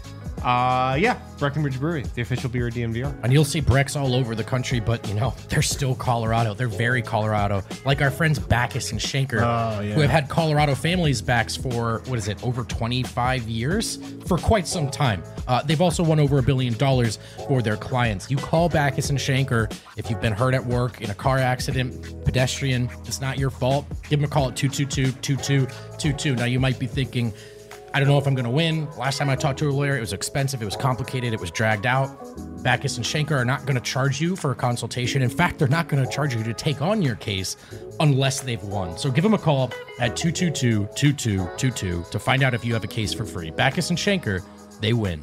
Breckenridge Brewery, the official beer of DNVR. And you'll see Brecks all over the country, but, they're still Colorado. They're very Colorado. Like our friends Backus and Schenker, who have had Colorado families backs for, over 25 years? For quite some time. They've also won over $1 billion for their clients. You call Backus and Schenker if you've been hurt at work, in a car accident, pedestrian, it's not your fault. Give them a call at 222-2222. Now, you might be thinking, I don't know if I'm going to win. Last time I talked to a lawyer, it was expensive, it was complicated, it was dragged out. Backus and Schenker are not going to charge you for a consultation. In fact, they're not going to charge you to take on your case unless they've won. So give them a call at 222-2222 to find out if you have a case for free. Backus and Schenker, they win.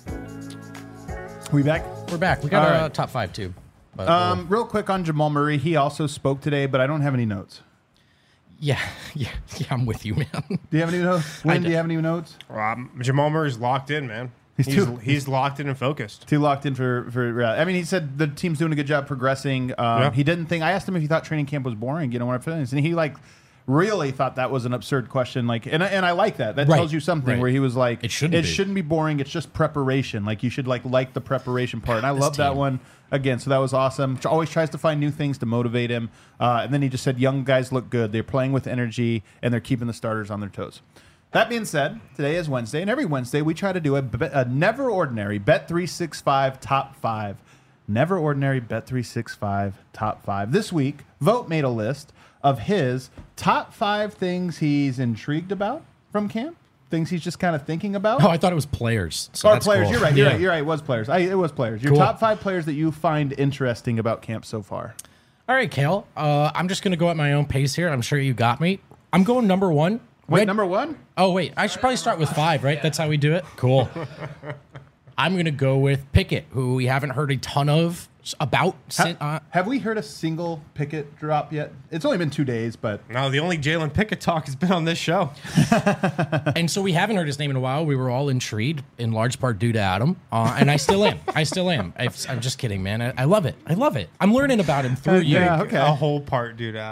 We back? We're back. We got All our right. top five, too. But, Real quick on Jamal Murray. He also spoke today, but I don't have any notes. yeah, I'm with you, man. Do you have any notes? Wayne, do you have any notes? Jamal Murray's locked in, man. He's locked in and focused. Too locked in for. I mean, he said the team's doing a good job progressing. He didn't think. I asked him if he thought training camp was boring. When I finished, and he really thought that was an absurd question. And I like that. That Right. tells you something. Right. Where he was like, It shouldn't be. boring. It's just preparation. Like you should like the preparation part. And I This love that team. one. Again, so that was awesome. Always tries to find new things to motivate him. And then he just said, young guys look good. They're playing with energy, and they're keeping the starters on their toes. That being said, today is Wednesday, and every Wednesday we try to do a never ordinary Bet365 top 5. Never ordinary Bet365 top 5. This week, Vote made a list of his top 5 things he's intrigued about from camp. Things he's just kind of thinking about. Oh, I thought it was players. So Or that's players. cool. You're right. Yeah. You're right. It was players. It was players. Your Cool. top 5 players that you find interesting about camp so far. All right, Kale. I'm just going to go at my own pace here. I'm sure you got me. I'm going number 1. Wait, number 1? Oh, wait. I should probably start with 5, right? That's how we do it? Cool. I'm going to go with Pickett, who we haven't heard a ton of about. Have we heard a single Pickett drop yet? It's only been 2 days, but No, the only Jalen Pickett talk has been on this show. And so we haven't heard his name in a while. We were all intrigued, in large part due to Adam. And I still am. I'm just kidding, man. I love it. I'm learning about him through you. Yeah, okay. A whole part due to Adam.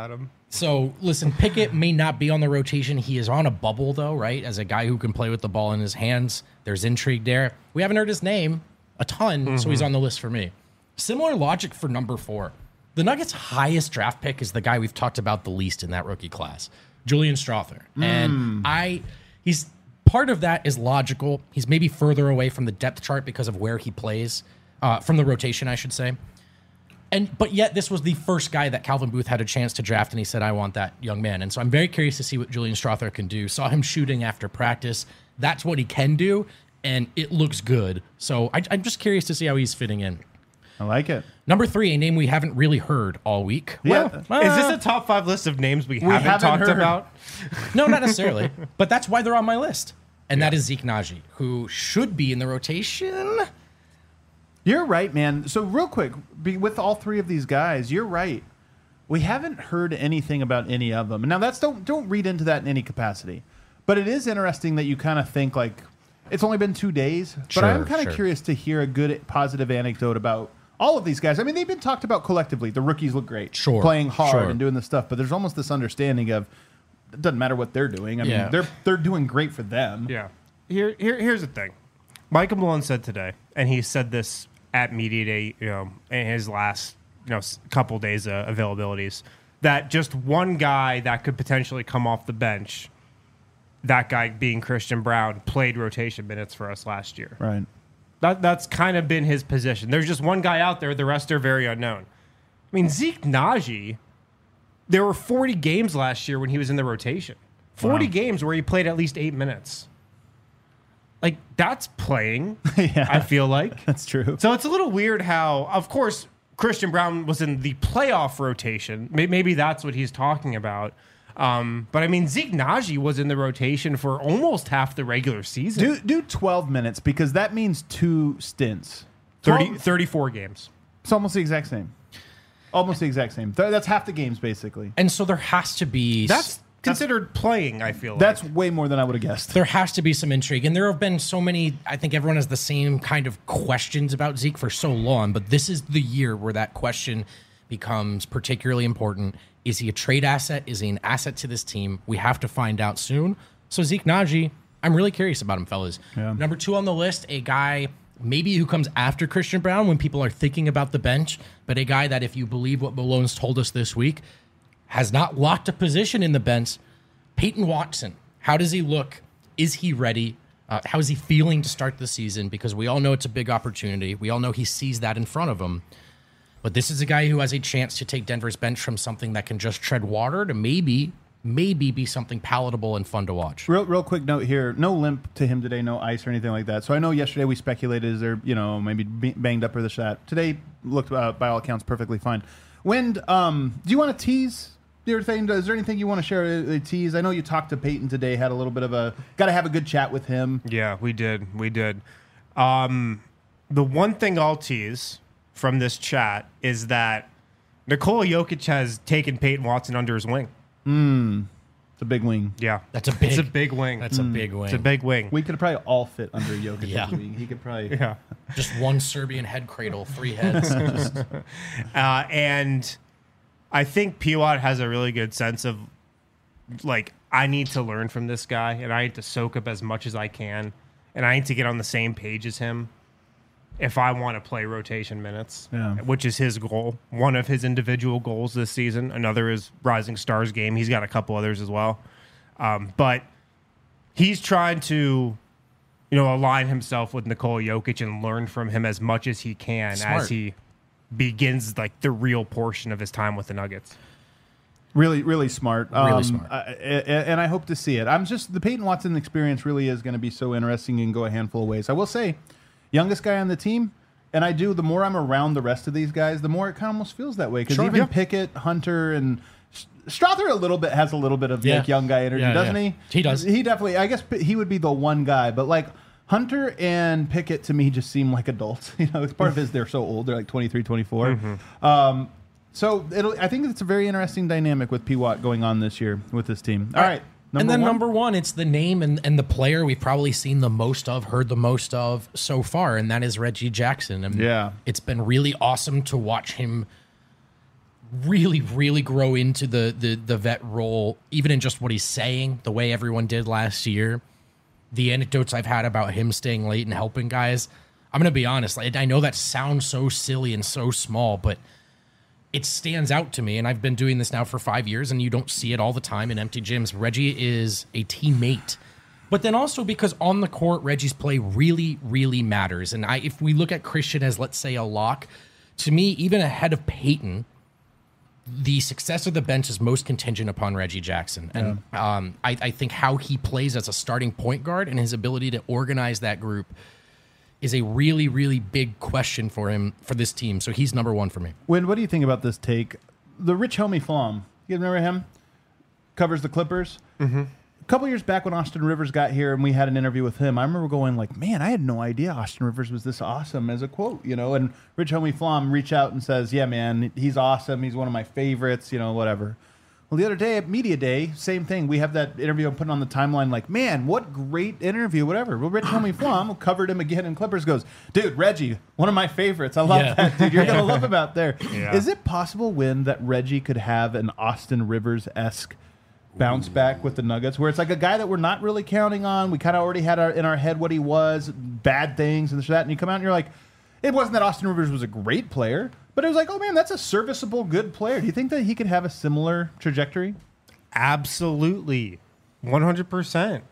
So, listen, Pickett may not be on the rotation. He is on a bubble, though, right? As a guy who can play with the ball in his hands, there's intrigue there. We haven't heard his name a ton, so he's on the list for me. Similar logic for number 4. The Nuggets' highest draft pick is the guy we've talked about the least in that rookie class, Julian Strawther. And he's part of that is logical. He's maybe further away from the depth chart because of where he plays, from the rotation, I should say. But yet this was the first guy that Calvin Booth had a chance to draft, and he said, I want that young man. And so I'm very curious to see what Julian Strawther can do. Saw him shooting after practice. That's what he can do, and it looks good. So I'm just curious to see how he's fitting in. I like it. Number 3, a name we haven't really heard all week. Yeah. Is this a top 5 list of names we haven't talked heard. about? No, not necessarily. But that's why they're on my list. And that is Zeke Naji, who should be in the rotation. You're right, man. So real quick, with all 3 of these guys, you're right. We haven't heard anything about any of them. Now that's don't read into that in any capacity. But it is interesting that you kind of think like it's only been 2 days. But I'm kind of curious to hear a good positive anecdote about all of these guys. I mean, they've been talked about collectively. The rookies look great, playing hard and doing this stuff. But there's almost this understanding of it doesn't matter what they're doing. I mean, they're doing great for them. Yeah. Here's the thing. Michael Malone said today, and he said this at media day, in his last, couple days of availabilities, that just one guy that could potentially come off the bench, that guy being Christian Braun, played rotation minutes for us last year. Right. That's kind of been his position. There's just one guy out there. The rest are very unknown. I mean, Zeke Naji, there were 40 games last year when he was in the rotation. 40 games where he played at least 8 minutes. Like, that's playing, I feel like. That's true. So it's a little weird how, of course, Christian Braun was in the playoff rotation. Maybe that's what he's talking about. But, I mean, Zeke Naji was in the rotation for almost half the regular season. Do 12 minutes because that means 2 stints. 34 games. It's almost the exact same. Almost the exact same. That's half the games, basically. And so there has to be... That's considered playing, I feel like. That's way more than I would have guessed. There has to be some intrigue. And there have been so many... I think everyone has the same kind of questions about Zeke for so long. But this is the year where that question becomes particularly important. Is he a trade asset? Is he an asset to this team? We have to find out soon. So Zeke Naji, I'm really curious about him, fellas. Yeah. Number 2 on the list, a guy maybe who comes after Christian Braun when people are thinking about the bench, but a guy that, if you believe what Malone's told us this week, has not locked a position in the bench. Peyton Watson. How does he look? Is he ready? How is he feeling to start the season? Because we all know it's a big opportunity. We all know he sees that in front of him. But this is a guy who has a chance to take Denver's bench from something that can just tread water to maybe be something palatable and fun to watch. Real quick note here. No limp to him today, no ice or anything like that. So I know yesterday we speculated, is there, maybe banged up or this, that. Today looked, by all accounts, perfectly fine. Wind, do you want to tease your thing? Is there anything you want to share, a tease? I know you talked to Peyton today, had a little bit of got to have a good chat with him. Yeah, we did. The one thing I'll tease from this chat is that Nikola Jokic has taken Peyton Watson under his wing. It's a big wing. Yeah. It's a big wing. That's a big wing. It's a big wing. We could probably all fit under Jokic's Yeah. wing. He could probably... Yeah. Just one Serbian head cradle, 3 heads. And I think Piwat has a really good sense of, like, I need to learn from this guy, and I need to soak up as much as I can, and I need to get on the same page as him if I want to play rotation minutes, which is his goal. One of his individual goals this season. Another is Rising Stars game. He's got a couple others as well. But he's trying to, align himself with Nikola Jokic and learn from him as much as he can as he begins like the real portion of his time with the Nuggets. Really, really smart. Really smart. And I hope to see it. The Peyton Watson experience really is going to be so interesting and go a handful of ways. I will say, youngest guy on the team, and the more I'm around the rest of these guys, the more it kind of almost feels that way. Because even Pickett, Hunter, and Strawther has a little bit of like young guy energy, doesn't he? He does. He definitely, I guess he would be the one guy, but like Hunter and Pickett to me just seem like adults. It's part of his, they're so old, they're like 23, 24. Mm-hmm. So I think it's a very interesting dynamic with P. Watt going on this year with this team. All right. Number one, it's the name and the player we've probably seen the most of, heard the most of so far, and that is Reggie Jackson. And it's been really awesome to watch him really, really grow into the vet role, even in just what he's saying, the way everyone did last year, the anecdotes I've had about him staying late and helping guys, I'm going to be honest. I know that sounds so silly and so small, but it stands out to me. And I've been doing this now for 5 years, and you don't see it all the time in empty gyms. Reggie is a teammate. But then also because on the court, Reggie's play really, really matters. And if we look at Christian as, let's say, a lock, to me, even ahead of Peyton, the success of the bench is most contingent upon Reggie Jackson. And I think how he plays as a starting point guard and his ability to organize that group is a really, really big question for him, for this team. So he's number one for me. Win, what do you think about this take? The Rich Homie Flom, you remember him? Covers the Clippers. Mm-hmm. A couple years back when Austin Rivers got here and we had an interview with him, I remember going like, man, I had no idea Austin Rivers was this awesome as a quote, and Rich Homie Flom reached out and says, yeah, man, he's awesome. He's one of my favorites, whatever. Well, the other day at Media Day, same thing. We have that interview I'm putting on the timeline like, man, what great interview, whatever. Well, Rich Homie Flom, who covered him again in Clippers, goes, dude, Reggie, one of my favorites. I love that, dude. You're going to love him out there. Yeah. Is it possible, Win, that Reggie could have an Austin Rivers-esque bounce back with the Nuggets, where it's like a guy that we're not really counting on? We kind of already had in our head what he was, bad things and this or that, and you come out and you're like, it wasn't that Austin Rivers was a great player, but it was like, oh man, that's a serviceable, good player. Do you think that he could have a similar trajectory? Absolutely. 100%.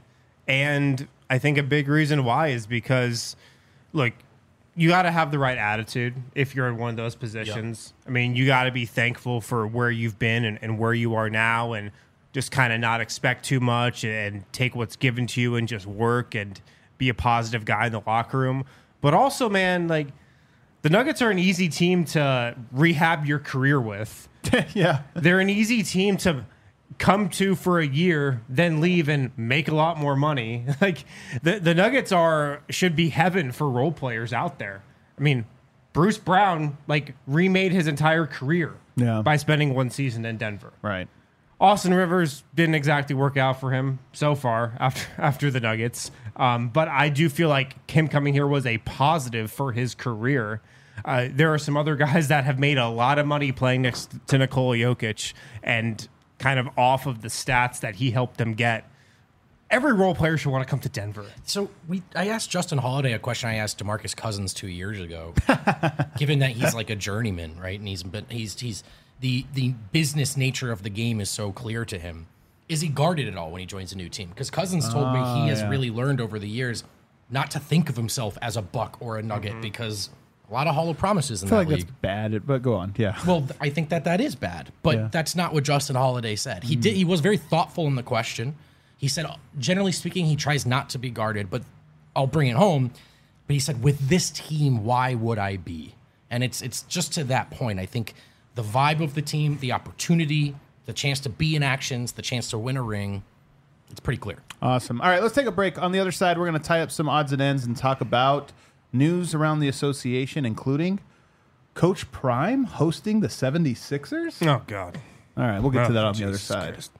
And I think a big reason why is because, look, you got to have the right attitude if you're in one of those positions. Yep. I mean, you got to be thankful for where you've been and where you are now, and just kind of not expect too much and take what's given to you and just work and be a positive guy in the locker room. But also, man, like, the Nuggets are an easy team to rehab your career with. Yeah. They're an easy team to come to for a year, then leave and make a lot more money. Like, the Nuggets should be heaven for role players out there. I mean, Bruce Brown, remade his entire career by spending one season in Denver. Right. Austin Rivers didn't exactly work out for him so far after the Nuggets. But I do feel like him coming here was a positive for his career. There are some other guys that have made a lot of money playing next to Nikola Jokic and kind of off of the stats that he helped them get. Every role player should want to come to Denver. So I asked Justin Holiday a question I asked DeMarcus Cousins 2 years ago, given that he's like a journeyman, right? And he's the business nature of the game is so clear to him. Is he guarded at all when he joins a new team? Because Cousins told me he has really learned over the years not to think of himself as a Buck or a Nugget, because a lot of hollow promises in that league. That's bad, but go on. Yeah. Well, I think that is bad, but that's not what Justin Holiday said. He was very thoughtful in the question. He said, generally speaking, he tries not to be guarded, but I'll bring it home. But he said, with this team, why would I be? And it's just to that point. I think the vibe of the team, the opportunity, the chance to be in actions, the chance to win a ring, it's pretty clear. Awesome. All right, let's take a break. On the other side, we're going to tie up some odds and ends and talk about news around the association, including Coach Prime hosting the 76ers. Oh, God. All right, we'll get to that on the other side. Christ.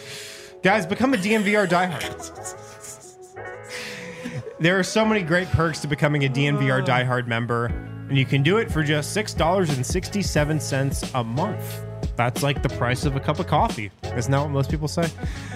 Guys, become a DNVR diehard. There are so many great perks to becoming a DNVR diehard member, and you can do it for just $6.67 a month. That's like the price of a cup of coffee. Isn't that what most people say?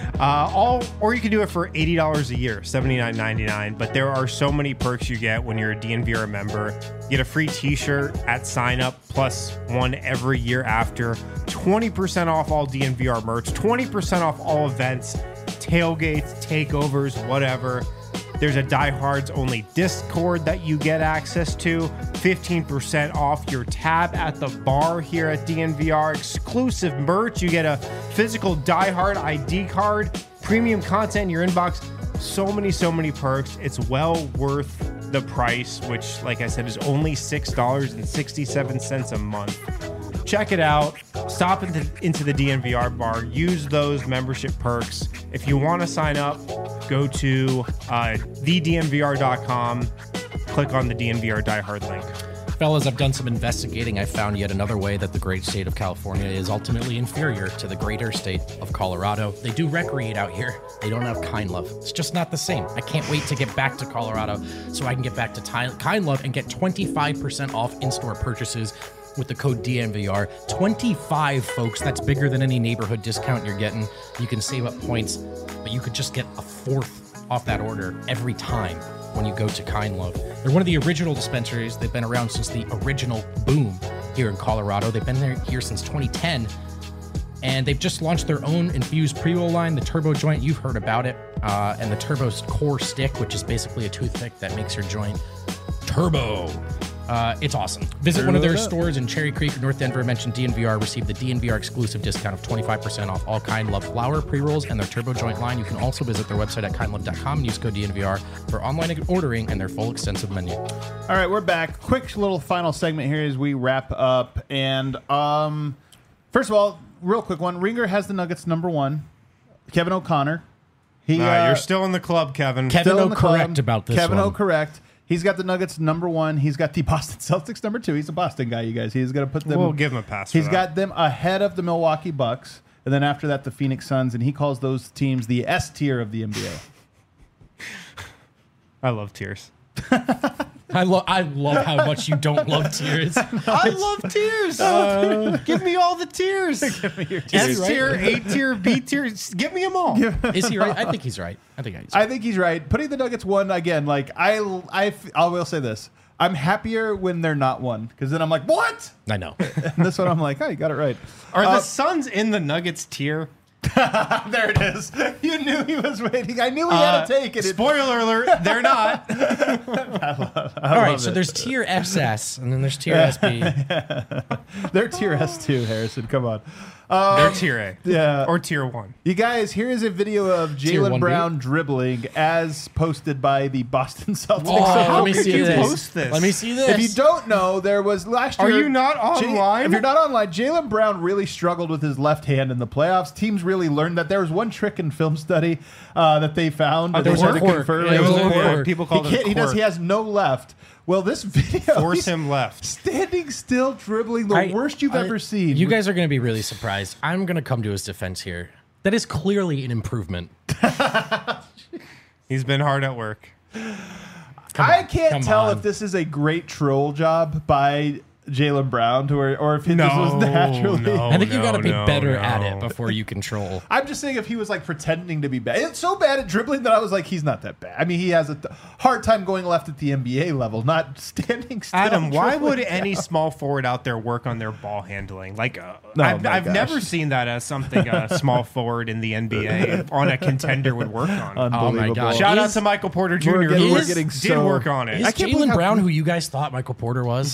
Or you can do it for $80 a year, $79.99. But there are so many perks you get when you're a DNVR member. You get a free t-shirt at sign up, plus one every year after. 20% off all DNVR merch, 20% off all events, tailgates, takeovers, whatever. There's a Diehards only Discord that you get access to. 15% off your tab at the bar here at DNVR. Exclusive merch. You get a physical Diehard ID card. Premium content in your inbox. So many perks. It's well worth the price, which, like I said, is only $6.67 a month. Check it out. Stop into the DNVR bar. Use those membership perks. If you want to sign up, go to thednvr.com. Click on the DNVR diehard link. Fellas, I've done some investigating. I found yet another way that the great state of California is ultimately inferior to the greater state of Colorado. They do recreate out here. They don't have Kind Love. It's just not the same. I can't wait to get back to Colorado so I can get back to Kind Love and get 25% off in-store purchases with the code DNVR. 25, folks. That's bigger than any neighborhood discount you're getting. You can save up points, but you could just get a fourth off that order every time when you go to Kind Love. They're one of the original dispensaries. They've been around since the original boom here in Colorado. They've been here since 2010. And they've just launched their own infused pre-roll line, the Turbo Joint. You've heard about it. And the Turbo Core Stick, which is basically a toothpick that makes your joint turbo. It's awesome. Visit one of their stores in Cherry Creek, North Denver. Mention DNVR. Receive the DNVR exclusive discount of 25% off all Kind Love flower pre-rolls and their Turbo Joint line. You can also visit their website at kindlove.com and use code DNVR for online ordering and their full extensive menu. All right, we're back. Quick little final segment here as we wrap up. And first of all, real quick one. Ringer has the Nuggets #1. Kevin O'Connor. You're still in the club, Kevin. Kevin O correct about this Kevin one. O correct. He's got the Nuggets #1. He's got the Boston Celtics #2. He's a Boston guy, you guys. He's going to put them. We'll give him a pass. He's got them ahead of the Milwaukee Bucks, and then after that, the Phoenix Suns, and he calls those teams the S tier of the NBA. I love tears. I love how much you don't love tears. I love tears. Give me all the tears. Give me your tears. S tier, A tier, B tier. Give me them all. Is he right? I think he's right. I think he's right. Putting the Nuggets 1 again, like I will say this: I'm happier when they're not 1 because then I'm like, what? I know. And this one, I'm like, oh, you got it right. Are the Suns in the Nuggets tier? There it is. You knew he was waiting. I knew he had to take it. Spoiler alert, they're not. All right, so there's tier SS and then there's tier SB. They're tier S2, Harrison. Come on. They're tier A. Yeah. Or tier 1. You guys, here is a video of Tier Jaylen 1B? Brown dribbling as posted by the Boston Celtics. Let me could see you this. post this? Let me see this. If you don't know, there was last year. Are you not online? If you're not online, Jaylen Brown really struggled with his left hand in the playoffs. Teams really learned that. There was one trick in film study that they found. there was they a had to quirk. confirm. Yeah, It was it was a a quirk. quirk. People call it a He quirk. He has no left. Well, this video, Force he's him left. standing still, dribbling the worst you've ever seen. You guys are going to be really surprised. I'm going to come to his defense here. That is clearly an improvement. He's been hard at work. I can't come tell on. if this is a great troll job by Jaylen Brown or if this was naturally. no. I think you got to be no, better no. at it before you control. I'm just saying if he was like pretending to be bad. It's so bad at dribbling that I was like, he's not that bad. I mean, he has a hard time going left at the NBA level, not standing still. Adam, why dribbling would any down. small forward out there work on their ball handling? Like, my I've gosh. never seen that as something a small forward in the NBA on a contender would work on. Oh my Unbelievable. God. Shout out Is- to Michael Porter Jr. We're who getting did so- work on it. Is I can't believe Jaylen how Brown good- who you guys thought Michael Porter was?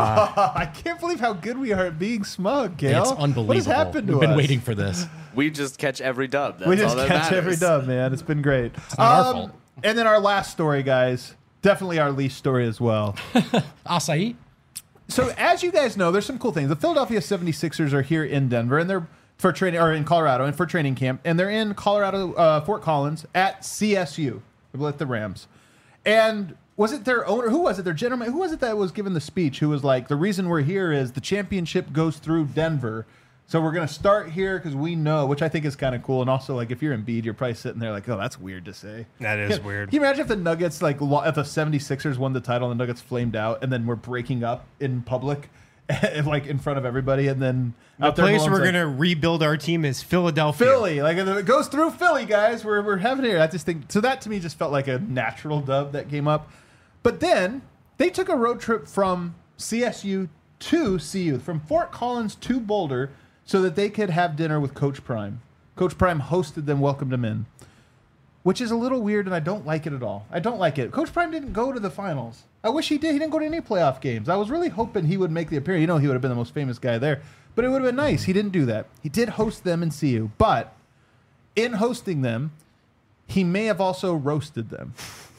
I can't believe how good we are at being smug, Gail. It's unbelievable. What has happened to We've been us? waiting for this. We just catch every dub. That's We all just that catch every matters. dub, man. It's been great. not our fault. And then our last story, guys. Definitely our least story as well. Acai? So as you guys know, there's some cool things. The Philadelphia 76ers are here in Denver, and they're for training, or in Colorado, and for training camp, and they're in Colorado, Fort Collins at CSU with the Rams. And was it their owner? Who was it? Their general? Who was it that was giving the speech? Who was like, the reason we're here is the championship goes through Denver. So we're going to start here because we know, which I think is kind of cool. And also, like, if you're Embiid, you're probably sitting there like, oh, that's weird to say. That is Yeah. weird. Can you imagine if the Nuggets, like, if the 76ers won the title and the Nuggets flamed out and then we're breaking up in public, like, in front of everybody, and then The out there place Malone's we're like, going to rebuild our team is Philadelphia. Philly. Like, if it goes through Philly, guys. We're having it here. I just think, so that to me just felt like a natural dub that came up. But then they took a road trip from CSU to CU, from Fort Collins to Boulder, so that they could have dinner with Coach Prime. Coach Prime hosted them, welcomed them in, which is a little weird, and I don't like it at all. I don't like it. Coach Prime didn't go to the finals. I wish he did. He didn't go to any playoff games. I was really hoping he would make the appearance. You know, he would have been the most famous guy there. But it would have been nice. He didn't do that. He did host them in CU, but in hosting them, he may have also roasted them.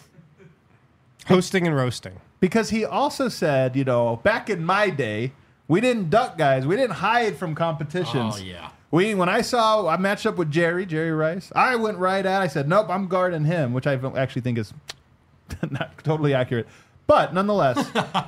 Hosting and roasting. Because he also said, you know, back in my day, we didn't duck, guys. We didn't hide from competitions. Oh, yeah. When I saw I matched up with Jerry Rice, I went right at. I said, nope, I'm guarding him, which I actually think is not totally accurate, but nonetheless.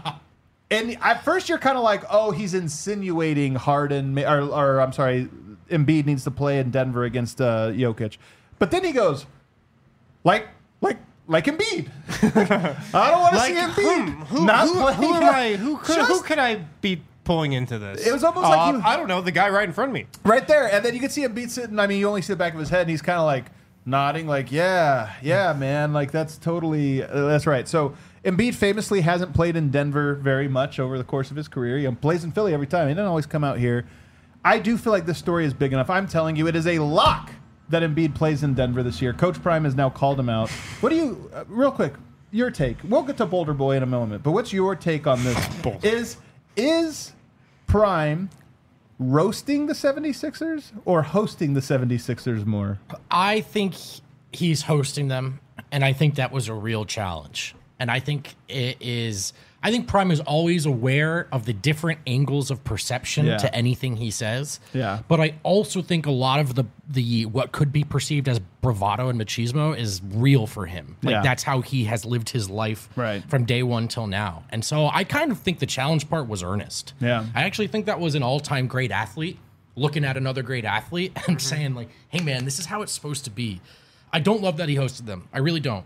And at first, you're kind of like, oh, he's insinuating Harden, or I'm sorry, Embiid needs to play in Denver against Jokic, but then he goes, like Embiid. I don't want to see Embiid. Who am I? Who could I be pulling into this? It was almost like he- I don't know, the guy right in front of me. Right there, and then you can see Embiid sitting. I mean, you only see the back of his head, and he's kind of like nodding, like, yeah, man, like that's totally that's right. So Embiid famously hasn't played in Denver very much over the course of his career. He plays in Philly every time. He doesn't always come out here. I do feel like this story is big enough. I'm telling you, it is a lock that Embiid plays in Denver this year. Coach Prime has now called him out. What do you, real quick, your take? We'll get to Boulder Boy in a moment, but what's your take on this? Is Prime roasting the 76ers or hosting the 76ers more? I think he's hosting them, and I think that was a real challenge. And I think it is. I think Prime is always aware of the different angles of perception to anything he says. Yeah. But I also think a lot of the what could be perceived as bravado and machismo is real for him. Like that's how he has lived his life from day one till now. And so I kind of think the challenge part was earnest. Yeah. I actually think that was an all-time great athlete looking at another great athlete and saying like, "Hey man, this is how it's supposed to be." I don't love that he hosted them. I really don't.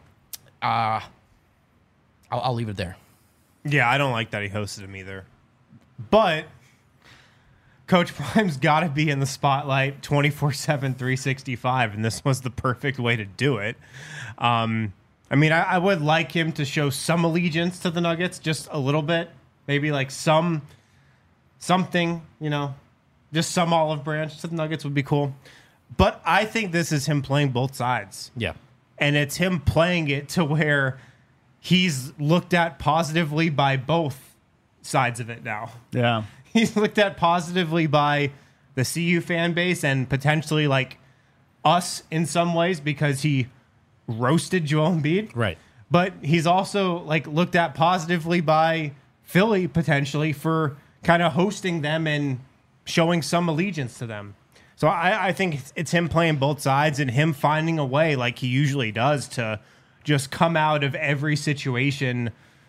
I'll leave it there. Yeah, I don't like that he hosted him either. But Coach Prime's got to be in the spotlight 24/7, 365, and this was the perfect way to do it. I mean, I would like him to show some allegiance to the Nuggets, just a little bit. Maybe like something, you know, just some olive branch to the Nuggets would be cool. But I think this is him playing both sides. Yeah. And it's him playing it to where he's looked at positively by both sides of it now. Yeah. He's looked at positively by the CU fan base and potentially like us in some ways because he roasted Joel Embiid. Right. But he's also like looked at positively by Philly potentially for kind of hosting them and showing some allegiance to them. So I think it's him playing both sides and him finding a way like he usually does to just come out of every situation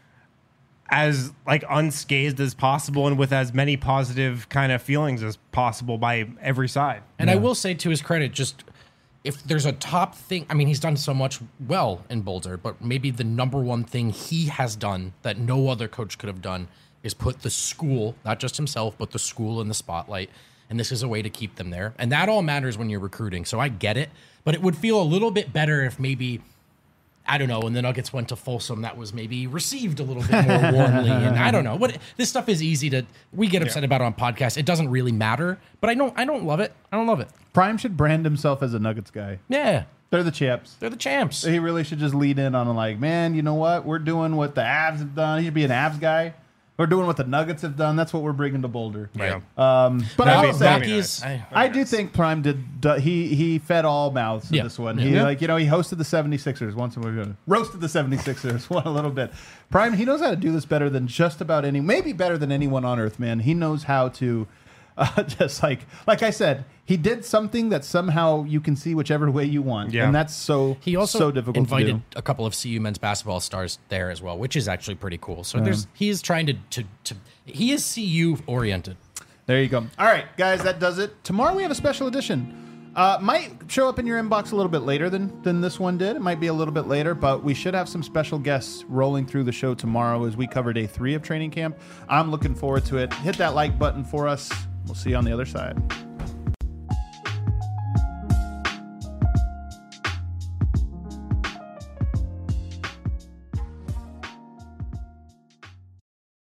as like unscathed as possible and with as many positive kind of feelings as possible by every side. And I will say to his credit, just if there's a top thing, I mean, he's done so much well in Boulder, but maybe the number one thing he has done that no other coach could have done is put the school, not just himself, but the school in the spotlight. And this is a way to keep them there. And that all matters when you're recruiting. So I get it, but it would feel a little bit better if maybe, I don't know, when the Nuggets went to Folsom, that was maybe received a little bit more warmly. And I don't know. This stuff is easy to, we get upset about it on podcasts. It doesn't really matter, but I don't love it. I don't love it. Prime should brand himself as a Nuggets guy. Yeah. They're the champs. They're the champs. He really should just lead in on like, man, you know what? We're doing what the Avs have done. He should be an Avs guy. We're doing what the Nuggets have done. That's what we're bringing to Boulder. Right. But I will say, Rockies, I do think Prime he fed all mouths in this one. He he hosted the 76ers once and we roasted the 76ers one a little bit. Prime, he knows how to do this better than just about maybe better than anyone on earth, man. He knows how to just like I said, he did something that somehow you can see whichever way you want. Yeah. And that's he also so difficult invited to do. a couple of CU men's basketball stars there as well, which is actually pretty cool. So he is trying to he is CU oriented. There you go. All right, guys, that does it. Tomorrow we have a special edition. Might show up in your inbox a little bit later than this one did. It might be a little bit later, but we should have some special guests rolling through the show tomorrow as we cover day 3 of training camp. I'm looking forward to it. Hit that like button for us. We'll see you on the other side.